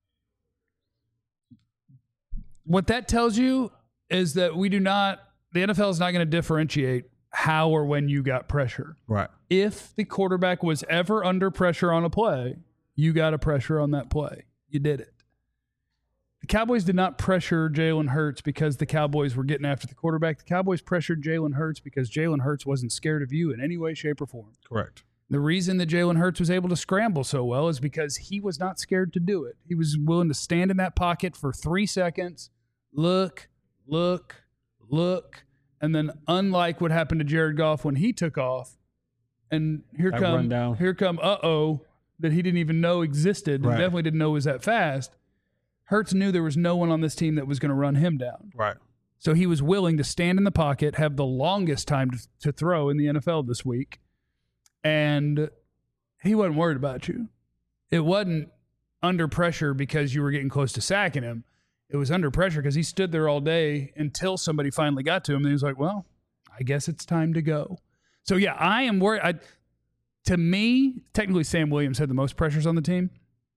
What that tells you is that we do not, the N F L is not going to differentiate how or when you got pressure. Right. If the quarterback was ever under pressure on a play, you got a pressure on that play. You did it. The Cowboys did not pressure Jalen Hurts because the Cowboys were getting after the quarterback. The Cowboys pressured Jalen Hurts because Jalen Hurts wasn't scared of you in any way, shape, or form. Correct. The reason that Jalen Hurts was able to scramble so well is because he was not scared to do it. He was willing to stand in that pocket for three seconds, look, look, look, and then unlike what happened to Jared Goff when he took off, and here That come, rundown. here come, uh-oh, that he didn't even know existed, and Right. definitely didn't know was that fast. Hurts knew there was no one on this team that was going to run him down. Right. So he was willing to stand in the pocket, have the longest time to, to throw in the N F L this week, and he wasn't worried about you. It wasn't under pressure because you were getting close to sacking him. It was under pressure because he stood there all day until somebody finally got to him, and he was like, well, I guess it's time to go. So, yeah, I am worried. I, to me, technically Sam Williams had the most pressures on the team.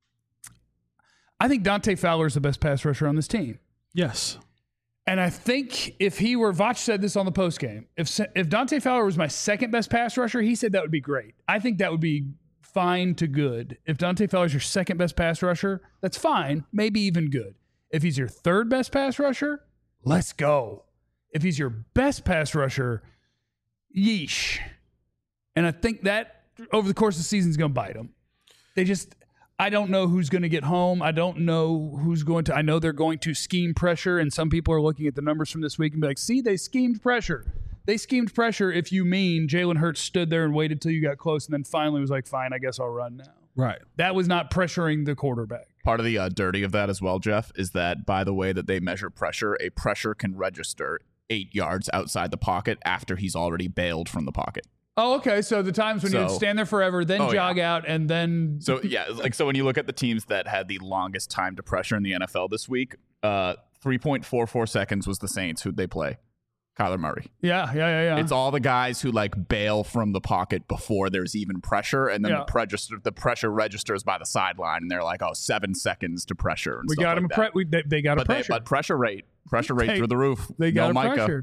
I think Dante Fowler is the best pass rusher on this team. Yes. And I think if he were, Vach said this on the postgame, if if Dante Fowler was my second best pass rusher, he said that would be great. I think that would be fine to good. If Dante Fowler is your second best pass rusher, that's fine, maybe even good. If he's your third best pass rusher, let's go. If he's your best pass rusher, yeesh. And I think that over the course of the season is going to bite him. They just... I don't know who's going to get home. I don't know who's going to. I know they're going to scheme pressure, and some people are looking at the numbers from this week and be like, see, they schemed pressure. they schemed pressure if you mean Jalen Hurts stood there and waited till you got close and then finally was like, fine, I guess I'll run now. Right. That was not pressuring the quarterback. Part of the uh, dirty of that as well, Jeff, is that by the way that they measure pressure, a pressure can register eight yards outside the pocket after he's already bailed from the pocket. Oh, okay. So the times when So- you would stand there forever, then Oh, jog yeah. out, and then So yeah, like so when you look at the teams that had the longest time to pressure in the N F L this week, uh, three point four four seconds was the Saints who'd they play. Kyler Murray. yeah, yeah, yeah, yeah. It's all the guys who like bail from the pocket before there's even pressure, and then Yeah. the pressure the pressure registers by the sideline, and they're like, oh, seven seconds to pressure. And we stuff got like him. that. Pre- we, they, they got a but, they, pressure. but pressure rate, pressure rate They- through the roof. They got no a Micah. pressure.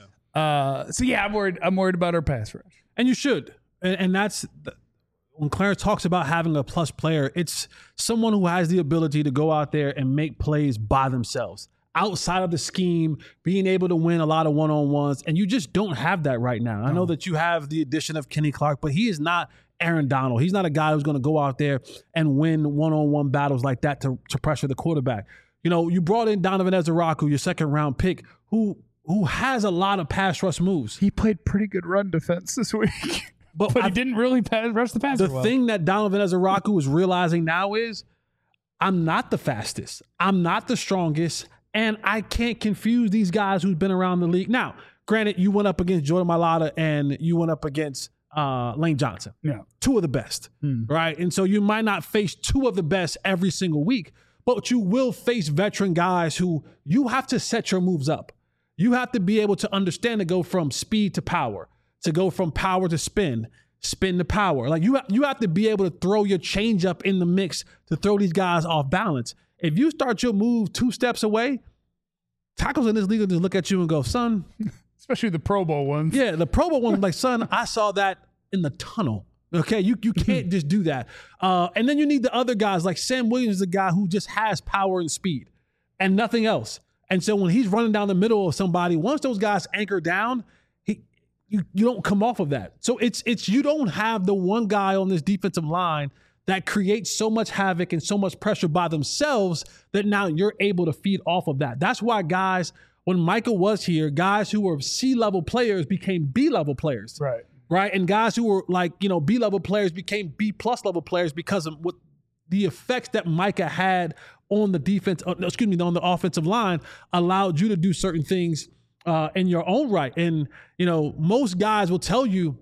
Uh, so yeah, I'm worried. I'm worried about our pass rush. And you should. And, and that's the, when Clarence talks about having a plus player, it's someone who has the ability to go out there and make plays by themselves, outside of the scheme, being able to win a lot of one-on-ones. And you just don't have that right now. I know that you have the addition of Kenny Clark, but he is not Aaron Donald. He's not a guy who's going to go out there and win one-on-one battles like that to, to pressure the quarterback. You know, you brought in Donovan Ezeraku, your second-round pick, who who has a lot of pass rush moves. He played pretty good run defense this week, But, but I- he didn't really pass, rush the passer the well. thing that Donovan Ezeraku is realizing now is I'm not the fastest. I'm not the strongest. And I can't confuse these guys who've been around the league. Now, granted, you went up against Jordan Mailata and you went up against uh, Lane Johnson. Yeah. Two of the best, right? And so you might not face two of the best every single week, but you will face veteran guys who you have to set your moves up. You have to be able to understand to go from speed to power, to go from power to spin, spin to power. Like you, you have to be able to throw your change up in the mix to throw these guys off balance. If you start your move two steps away, tackles in this league will just look at you and go, son, Especially the Pro Bowl ones. yeah, the Pro Bowl one, like, son, I saw that in the tunnel. Okay, you you can't just do that. Uh, and then you need the other guys, like Sam Williams is a guy who just has power and speed and nothing else. And so when he's running down the middle of somebody, once those guys anchor down, he you you don't come off of that. So it's it's you don't have the one guy on this defensive line that creates so much havoc and so much pressure by themselves that now you're able to feed off of that. That's why guys, when Michael was here, guys who were C-level players became B-level players. Right. Right. And guys who were like, you know, B-level players became B-plus level players because of what the effects that Micah had on the defense, uh, excuse me, on the offensive line allowed you to do certain things uh, in your own right. And, you know, most guys will tell you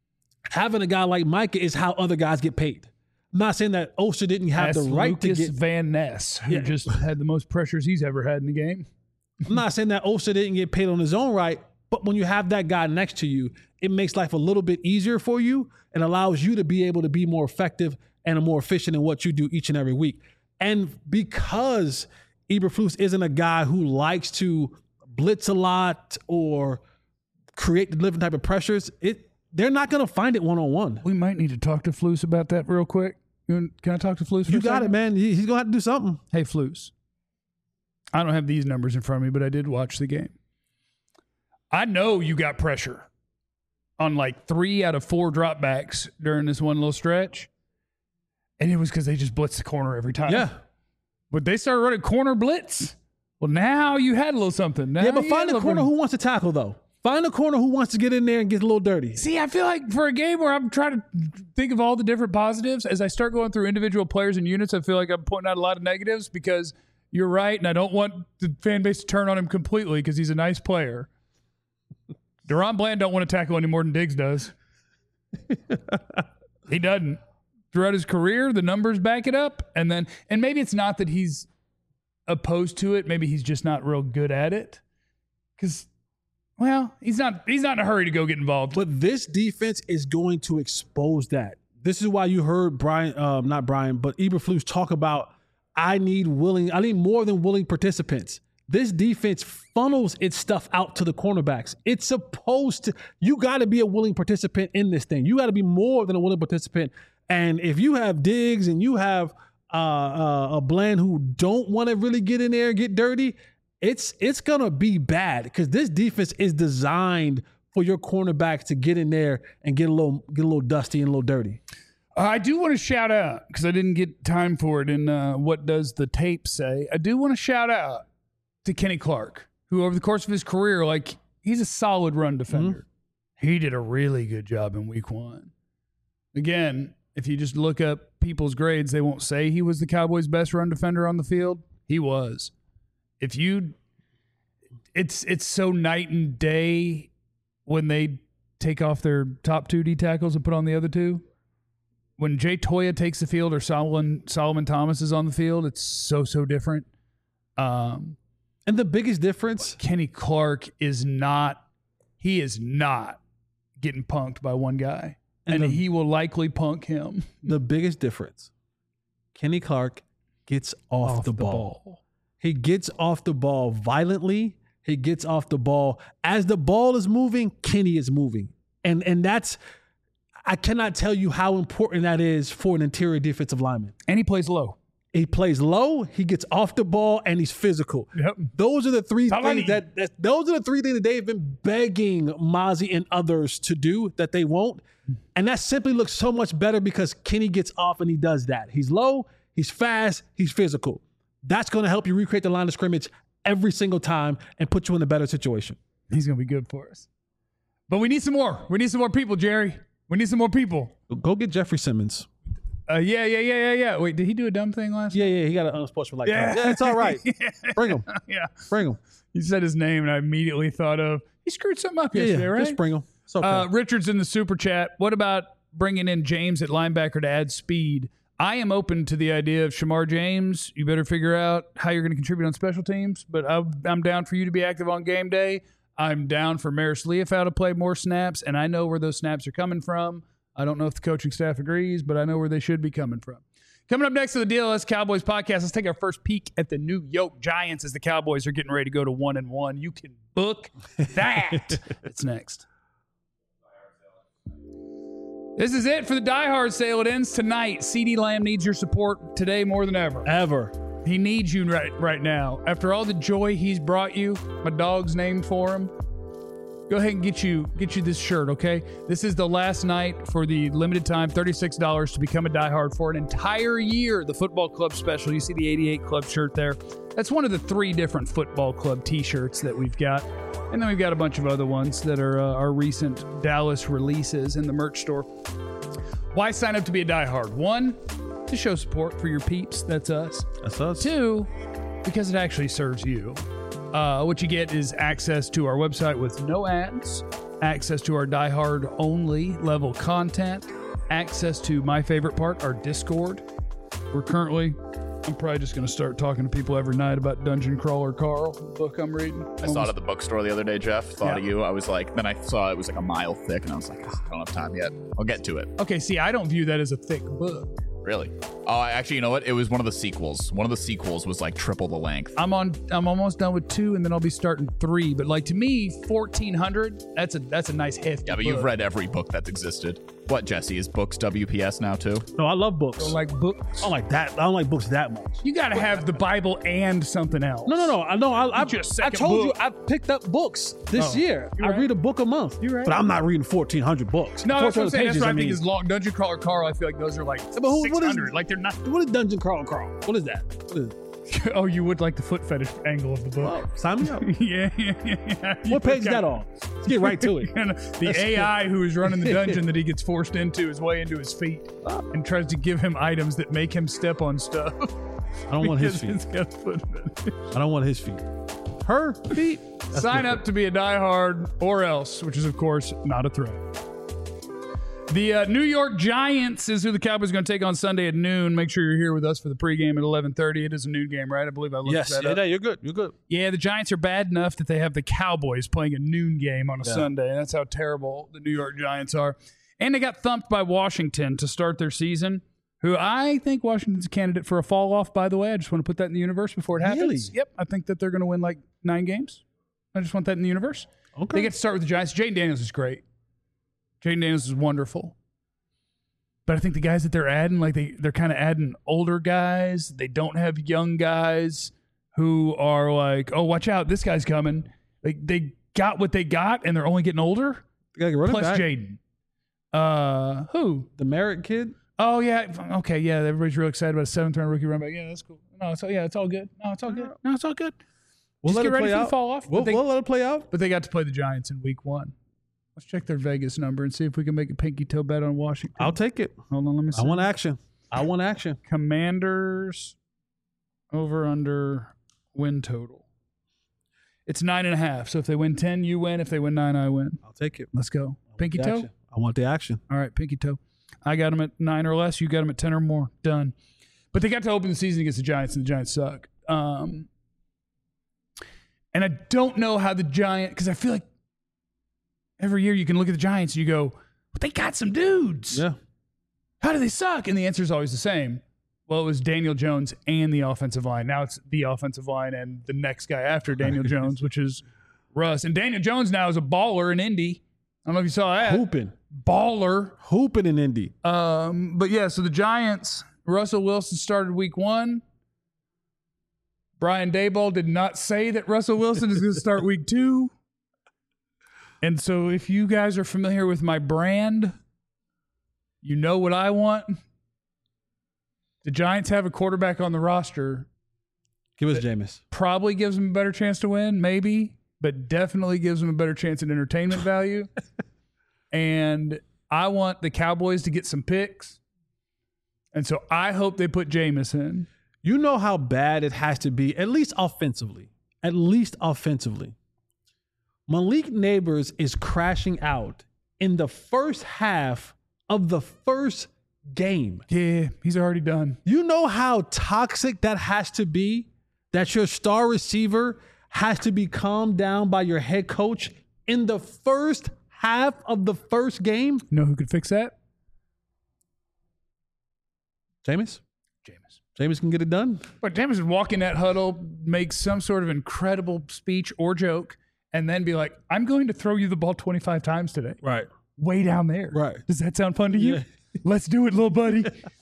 having a guy like Micah is how other guys get paid. I'm not saying that Oster didn't have Ask the right Lucas to get. Van Ness, who Yeah. just had the most pressures he's ever had in the game. I'm not saying that Oster didn't get paid on his own right, but when you have that guy next to you, it makes life a little bit easier for you and allows you to be able to be more effective and more efficient in what you do each and every week. And because Eberflus isn't a guy who likes to blitz a lot or create the different type of pressures, it they're not going to find it one-on-one. We might need to talk to Flus about that real quick. You want- Can I talk to Flus for You a got it, second? man. He- He's going to have to do something. Hey, Flus. I don't have these numbers in front of me, but I did watch the game. I know you got pressure on like three out of four dropbacks during this one little stretch. And it was because they just blitzed the corner every time. Yeah. But they started running corner blitz. Well, now you had a little something. Now Yeah, but you find had a a corner little- who wants to tackle, though. Find a corner who wants to get in there and get a little dirty. See, I feel like for a game where I'm trying to think of all the different positives, as I start going through individual players and units, I feel like I'm pointing out a lot of negatives because you're right, and I don't want the fan base to turn on him completely because he's a nice player. Deron Bland don't want to tackle any more than Diggs does. He doesn't. Throughout his career, the numbers back it up. And then, and maybe it's not that he's opposed to it. Maybe he's just not real good at it. Because, well, he's not he's not in a hurry to go get involved. But this defense is going to expose that. This is why you heard Brian, um, not Brian, but Eberflus talk about, I need willing, I need more than willing participants. This defense funnels its stuff out to the cornerbacks. It's supposed to, you got to be a willing participant in this thing. You got to be more than a willing participant. And if you have Diggs and you have uh, uh, a Bland who don't want to really get in there and get dirty, it's it's going to be bad because this defense is designed for your cornerbacks to get in there and get a little get a little dusty and a little dirty. Uh, I do want to shout out, because I didn't get time for it in uh, What Does the Tape Say? I do want to shout out to Kenny Clark, who over the course of his career, like, he's a solid run defender. Mm-hmm. He did a really good job in week one. Again, if you just look up people's grades, they won't say he was the Cowboys' best run defender on the field. He was. If you, it's it's so night and day when they take off their top two D tackles and put on the other two. When Jay Toya takes the field or Solomon Solomon Thomas is on the field, it's so so different. Um, and the biggest difference, Kenny Clark is not. He is not getting punked by one guy, and, and the, he will likely punk him. The biggest difference, Kenny Clark gets off, off the, the ball. ball. He gets off the ball violently. He gets off the ball. As the ball is moving, Kenny is moving. And and that's, I cannot tell you how important that is for an interior defensive lineman. And he plays low. He plays low, he gets off the ball, and he's physical. Yep. Those are the three Solani. things that, that those are the three things that they've been begging Mazi and others to do that they won't. And that simply looks so much better because Kenny gets off and he does that. He's low, he's fast, he's physical. That's going to help you recreate the line of scrimmage every single time and put you in a better situation. He's going to be good for us. But we need some more. We need some more people, Jerry. We need some more people. Go get Jeffrey Simmons. Uh, yeah, yeah, yeah, yeah, yeah. Wait, did he do a dumb thing last Yeah, night? yeah, he got an unsportsmanlike. Yeah, yeah, it's all right. Bring him. Yeah. Bring him. You said his name, and I immediately thought of, he screwed something up yeah, yesterday, yeah. right? Just bring him. It's okay. Uh, Richard's in the super chat. What about bringing in James at linebacker to add speed? I am open to the idea of Shamar James. You better figure out how you're going to contribute on special teams, but I'm, I'm down for you to be active on game day. I'm down for Maris Leafau to play more snaps, and I know where those snaps are coming from. I don't know if the coaching staff agrees, but I know where they should be coming from. Coming up next to the D L S Cowboys podcast, let's take our first peek at the New York Giants as the Cowboys are getting ready to go to one and one. You can book that. It's next. This is it for the Die Hard sale. It ends tonight. CeeDee Lamb needs your support today more than ever. Ever. He needs you right right now. After all the joy he's brought you, my dog's named for him. Go ahead and get you get you this shirt, okay? This is the last night for the limited time, thirty-six dollars to become a diehard for an entire year. The football club special. You see the eighty-eight club shirt there. That's one of the three different football club t-shirts that we've got. And then we've got a bunch of other ones that are uh, our recent Dallas releases in the merch store. Why sign up to be a diehard? One, to show support for your peeps. That's us. That's us. Two, because it actually serves you. Uh, what you get is access to our website with no ads, access to our diehard only level content, access to my favorite part, our Discord. We're currently, I'm probably just going to start talking to people every night about Dungeon Crawler Carl, the book I'm reading. I Almost. saw it at the bookstore the other day, Jeff. Thought yeah. of you. I was like, then I saw it was like a mile thick, and I was like, oh, I don't have time yet. I'll get to it. Okay, see, I don't view that as a thick book. Really? Oh, actually, you know what? It was one of the sequels. One of the sequels was like triple the length. I'm on. I'm almost done with two, and then I'll be starting three. But like to me, fourteen hundred. That's a that's a nice hefty. Yeah, but book. You've read every book that's existed. What, Jesse? Is books W P S now too? No, I love books. Don't like books. I don't like that. I don't like books that much. You got to have the Bible and something else. No, no, no. I know. I, I just I told book. you I picked up books this oh, year. I right. read a book a month. You're right. But I'm not reading fourteen hundred books. No, that's what I'm saying. Pages, That's what I, I mean, think is long. Dungeon Crawler Carl. I feel like those are like but who, six hundred. Like they're not. What is Dungeon Crawler Carl? What is that? What is oh, you would like the foot fetish angle of the book. Oh, sign me up. yeah, yeah, yeah. What page is that on? Let's get right to it. The A I who is running the dungeon that he gets forced into is way into his feet and tries to give him items that make him step on stuff. I don't want his feet. It's got a foot fetish. I don't want his feet. Her feet. That's Sign different. Up to be a diehard or else, which is, of course, not a threat. The uh, New York Giants is who the Cowboys are going to take on Sunday at noon. Make sure you're here with us for the pregame at eleven thirty. It is a noon game, right? I believe I looked yes, that yeah, up. Yeah, you're good. You're good. Yeah, the Giants are bad enough that they have the Cowboys playing a noon game on a yeah. Sunday. That's how terrible the New York Giants are. And they got thumped by Washington to start their season, who I think Washington's a candidate for a fall off, by the way. I just want to put that in the universe before it happens. Really? Yep, I think that they're going to win like nine games. I just want that in the universe. Okay. They get to start with the Giants. Jaden Daniels is great. Jaden Daniels is wonderful. But I think the guys that they're adding, like they, they're kind of adding older guys. They don't have young guys who are like, oh, watch out, this guy's coming. Like they got what they got, and they're only getting older. They got plus Jaden. Uh, who? The Merritt kid? Oh, yeah. Okay, yeah. Everybody's real excited about a seventh-round rookie running back. Yeah, that's cool. No, it's all, yeah, it's all good. No, it's all good. No, it's all good. We'll Just let get it ready play for out. the fall off. We'll, but, they, we'll let it play out. but they got to play the Giants in week one. Let's check their Vegas number and see if we can make a pinky toe bet on Washington. I'll take it. Hold on, let me see. I want action. I want action. Commanders over under win total. It's nine and a half. So if they win ten, you win. If they win nine, I win. I'll take it. Let's go. Pinky The toe. action. I want the action. All right, pinky toe. I got them at nine or less. You got them at ten or more. Done. But they got to open the season against the Giants, and the Giants suck. Um, and I don't know how the Giants, because I feel like every year you can look at the Giants and you go, but they got some dudes. Yeah. How do they suck? And the answer is always the same. Well, it was Daniel Jones and the offensive line. Now it's the offensive line and the next guy after Daniel Jones, which is Russ. And Daniel Jones now is a baller in Indy. I don't know if you saw that. Hooping. Baller. Hooping in Indy. Um, but yeah, so the Giants, Russell Wilson started week one. Brian Daboll did not say that Russell Wilson is going to start week two. And so if you guys are familiar with my brand, you know what I want. The Giants have a quarterback on the roster. Give us Jameis. Probably gives them a better chance to win, maybe, but definitely gives them a better chance at entertainment value. And I want the Cowboys to get some picks. And so I hope they put Jameis in. You know how bad it has to be, at least offensively. At least offensively. Malik Neighbors is crashing out in the first half of the first game. Yeah, he's already done. You know how toxic that has to be? That your star receiver has to be calmed down by your head coach in the first half of the first game? You know who could fix that? Jameis? Jameis. Jameis can get it done. But Jameis would walk in that huddle, make some sort of incredible speech or joke, and then be like, I'm going to throw you the ball twenty-five times today. Right. Way down there. Right. Does that sound fun to you? Yeah. Let's do it, little buddy.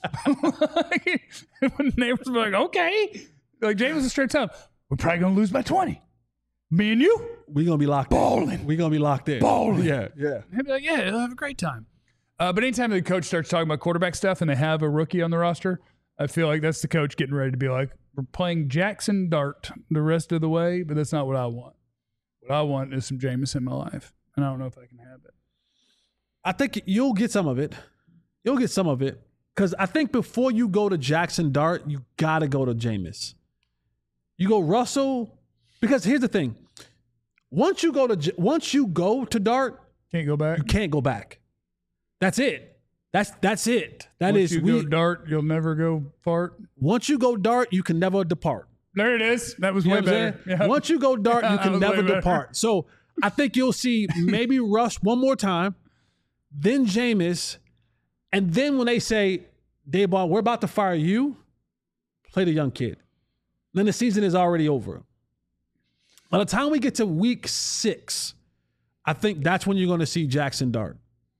When the neighbors were like, okay. Like, Jameis is straight up. We're probably going to lose by twenty. Me and you? We're going to be locked Balling. in. We're going to be locked in. Balling. Yeah, yeah. He'd be like, yeah, he'll have a great time. Uh, but anytime the coach starts talking about quarterback stuff and they have a rookie on the roster, I feel like that's the coach getting ready to be like, we're playing Jackson Dart the rest of the way, but that's not what I want. What I want is some Jameis in my life, and I don't know if I can have it. I think you'll get some of it. You'll get some of it. Because I think before you go to Jackson Dart, you got to go to Jameis. You go Russell, because here's the thing. Once you go to once you go to Dart, Can't go back. you can't go back. That's it. That's that's it. That Once is you we, go Dart, you'll never go fart. once you go Dart, you can never depart. There it is. That was You way know what I'm better. saying? Yeah. Once you go Dart, you That can was never way better. depart. So I think you'll see maybe Russ one more time, then Jameis, and then when they say, Daboll, we're about to fire you, play the young kid. Then the season is already over. By the time we get to week six, I think that's when you're going to see Jackson Dart.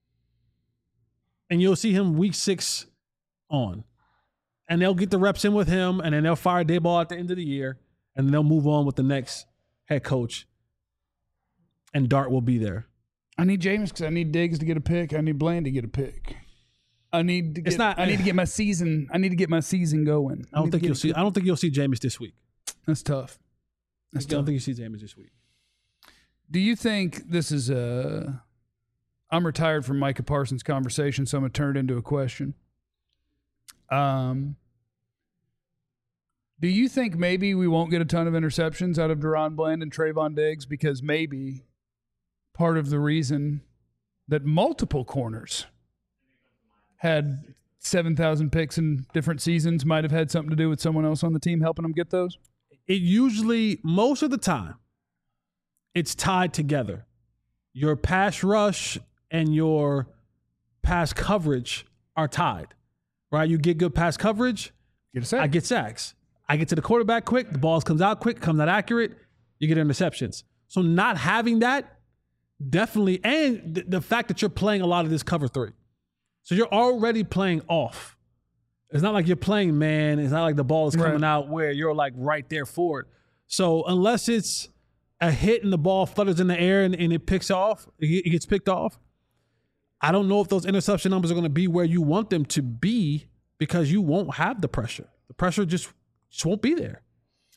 And you'll see him week six on. And they'll get the reps in with him, and then they'll fire Daboll at the end of the year, and then they'll move on with the next head coach. And Dart will be there. I need Jameis because I need Diggs to get a pick. I need Bland to get a pick. I need to get, It's not- I need to get my season. I need to get my season going. I don't need to think get you'll it see. I don't think you'll see Jameis this week. That's tough. I That's don't tough. think you see Jameis this week. Do you think this is a? I'm retired from Micah Parsons' conversation, so I'm gonna turn it into a question. Um, do you think maybe we won't get a ton of interceptions out of Deron Bland and Trayvon Diggs because maybe part of the reason that multiple corners had seven thousand picks in different seasons might have had something to do with someone else on the team helping them get those? It usually, most of the time, it's tied together. Your pass rush and your pass coverage are tied, right? You get good pass coverage, Get a sack. I get sacks. I get to the quarterback quick, the ball comes out quick, comes out accurate, you get interceptions. So not having that, definitely, and th- the fact that you're playing a lot of this cover three. So you're already playing off. It's not like you're playing man. It's not like the ball is coming Right. out where you're like right there for it. So unless it's a hit and the ball flutters in the air and, and it picks off, it it gets picked off, I don't know if those interception numbers are going to be where you want them to be because you won't have the pressure. The pressure just, just won't be there.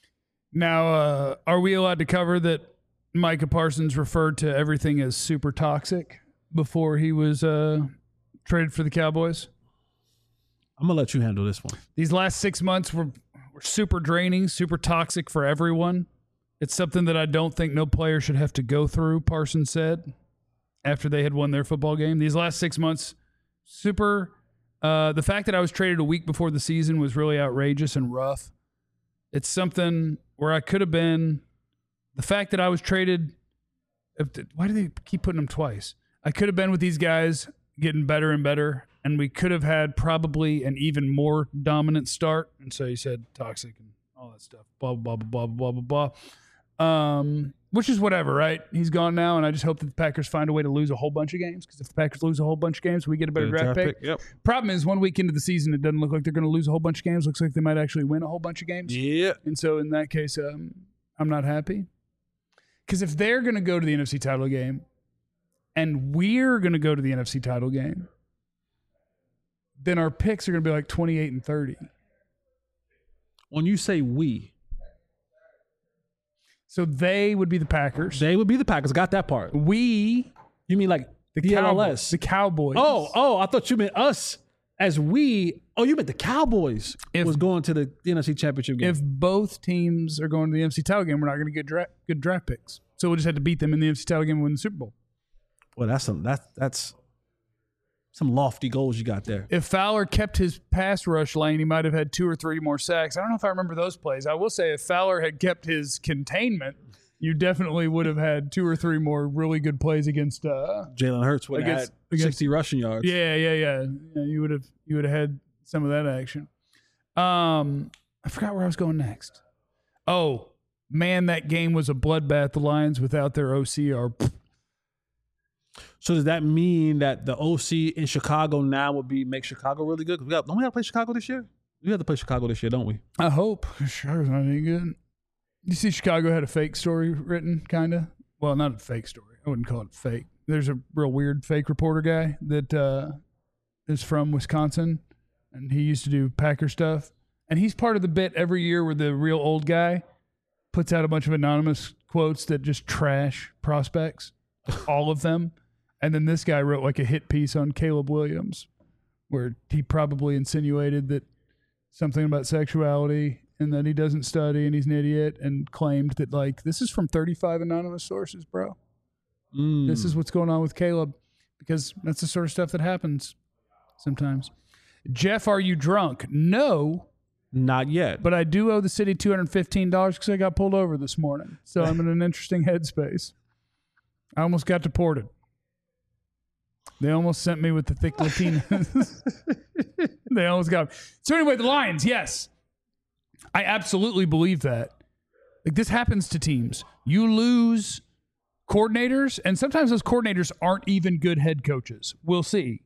Now, uh, are we allowed to cover that Micah Parsons referred to everything as super toxic before he was uh, traded for the Cowboys? I'm going to let you handle this one. These last six months were, were super draining, super toxic for everyone. It's something that I don't think no player should have to go through, Parsons said, after they had won their football game. These last six months, super. Uh, the fact that I was traded a week before the season was really outrageous and rough. It's something where I could have been. The fact that I was traded. Why do they keep putting them twice? I could have been with these guys getting better and better, and we could have had probably an even more dominant start. And so he said toxic and all that stuff. Blah, blah, blah, blah, blah, blah, blah. Um, which is whatever, right? He's gone now, and I just hope that the Packers find a way to lose a whole bunch of games, because if the Packers lose a whole bunch of games, we get a better Good draft, draft pick. pick, yep. Problem is, one week into the season, it doesn't look like they're going to lose a whole bunch of games. Looks like they might actually win a whole bunch of games. Yeah. And so in that case, um, I'm not happy. Because if they're going to go to the N F C title game and we're going to go to the N F C title game, then our picks are going to be like twenty-eight and thirty. When you say we, so they would be the Packers. they would be the Packers. Got that part. We, You mean like the D L Cowboys. S? The Cowboys. Oh, oh, I thought you meant us as we. Oh, you meant the Cowboys If- was going to the N F C Championship game. If both teams are going to the N F C title game, we're not going to get dra- good draft picks. So we'll just have to beat them in the N F C title game and win the Super Bowl. well, that's some that's that's some lofty goals you got there. If Fowler kept his pass rush lane, he might have had two or three more sacks. I don't know if I remember those plays. I will say if Fowler had kept his containment, you definitely would have had two or three more really good plays against. Uh, Jalen Hurts would have Against- had against- sixty rushing yards. yeah, yeah, yeah, yeah. You would have you would have had some of that action. Um, I forgot where I was going next. Oh man, that game was a bloodbath. The Lions without their O C are. So does that mean that the O C in Chicago now would be make Chicago really good? 'Cause we got, don't we have to play Chicago this year? We have to play Chicago this year, don't we? I hope Chicago's not any good. You see, Chicago had a fake story written, kind of. Well, not a fake story. I wouldn't call it fake. There's a real weird fake reporter guy that uh, is from Wisconsin, and he used to do Packer stuff. And he's part of the bit every year where the real old guy puts out a bunch of anonymous quotes that just trash prospects, all of them. And then this guy wrote like a hit piece on Caleb Williams, where he probably insinuated that something about sexuality and that he doesn't study and he's an idiot, and claimed that, like, this is from thirty-five anonymous sources, bro. Mm. This is what's going on with Caleb, because that's the sort of stuff that happens sometimes. Jeff, are you drunk? No, Not yet. but I do owe the city two hundred fifteen dollars because I got pulled over this morning. So I'm in an interesting headspace. I almost got deported. They almost sent me with the thick Latinas. They almost got me. So anyway, the Lions, yes. I absolutely believe that. Like, this happens to teams. You lose coordinators, and sometimes those coordinators aren't even good head coaches. We'll see.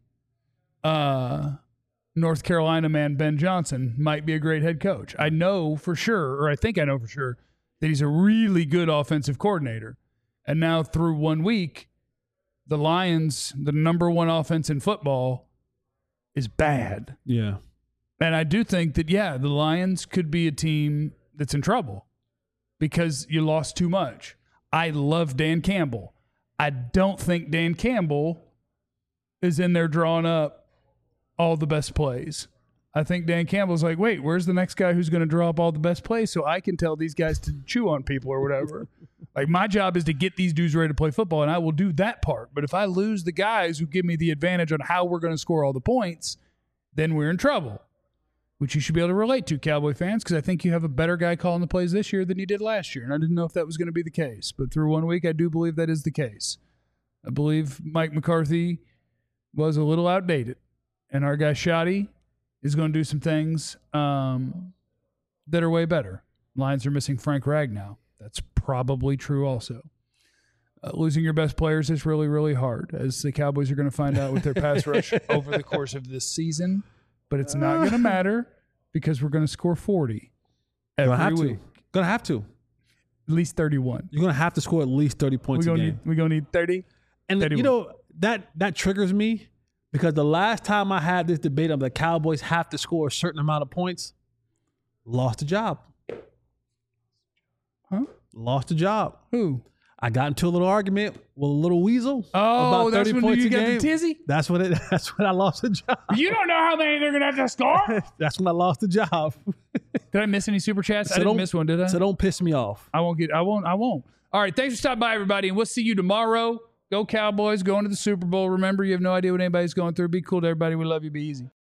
Uh, North Carolina man Ben Johnson might be a great head coach. I know for sure, or I think I know for sure, that he's a really good offensive coordinator. And now through one week, the Lions, the number one offense in football, is bad. Yeah. And I do think that, yeah, the Lions could be a team that's in trouble because you lost too much. I love Dan Campbell. I don't think Dan Campbell is in there drawing up all the best plays. I think Dan Campbell's like, wait, where's the next guy who's going to draw up all the best plays so I can tell these guys to chew on people or whatever. Like, my job is to get these dudes ready to play football, and I will do that part. But if I lose the guys who give me the advantage on how we're going to score all the points, then we're in trouble, which you should be able to relate to, Cowboy fans, because I think you have a better guy calling the plays this year than you did last year. And I didn't know if that was going to be the case. But through one week, I do believe that is the case. I believe Mike McCarthy was a little outdated. And our guy Shoddy is going to do some things um, that are way better. Lions are missing Frank Ragnow. That's probably true also. Uh, losing your best players is really, really hard, as the Cowboys are going to find out with their pass rush over the course of this season. But it's not going to matter because we're going to score forty every Gonna have week. to. Gonna have to. At least thirty-one. You're gonna have to score at least thirty points We're a going game. to we gonna need thirty. And thirty-one. you know that that triggers me because the last time I had this debate of the Cowboys have to score a certain amount of points, lost the job. Huh? Lost a job. Who? I got into a little argument with a little weasel. Oh, about that's thirty when points you a got game. the tizzy? That's when it. That's when I lost a job. You don't know how many they're going to have to score? That's when I lost the job. Did I miss any super chats? So I didn't don't- miss one, did I? So don't piss me off. I won't get, I won't, I won't. All right. Thanks for stopping by, everybody. And we'll see you tomorrow. Go Cowboys, going to the Super Bowl. Remember, you have no idea what anybody's going through. Be cool to everybody. We love you. Be easy.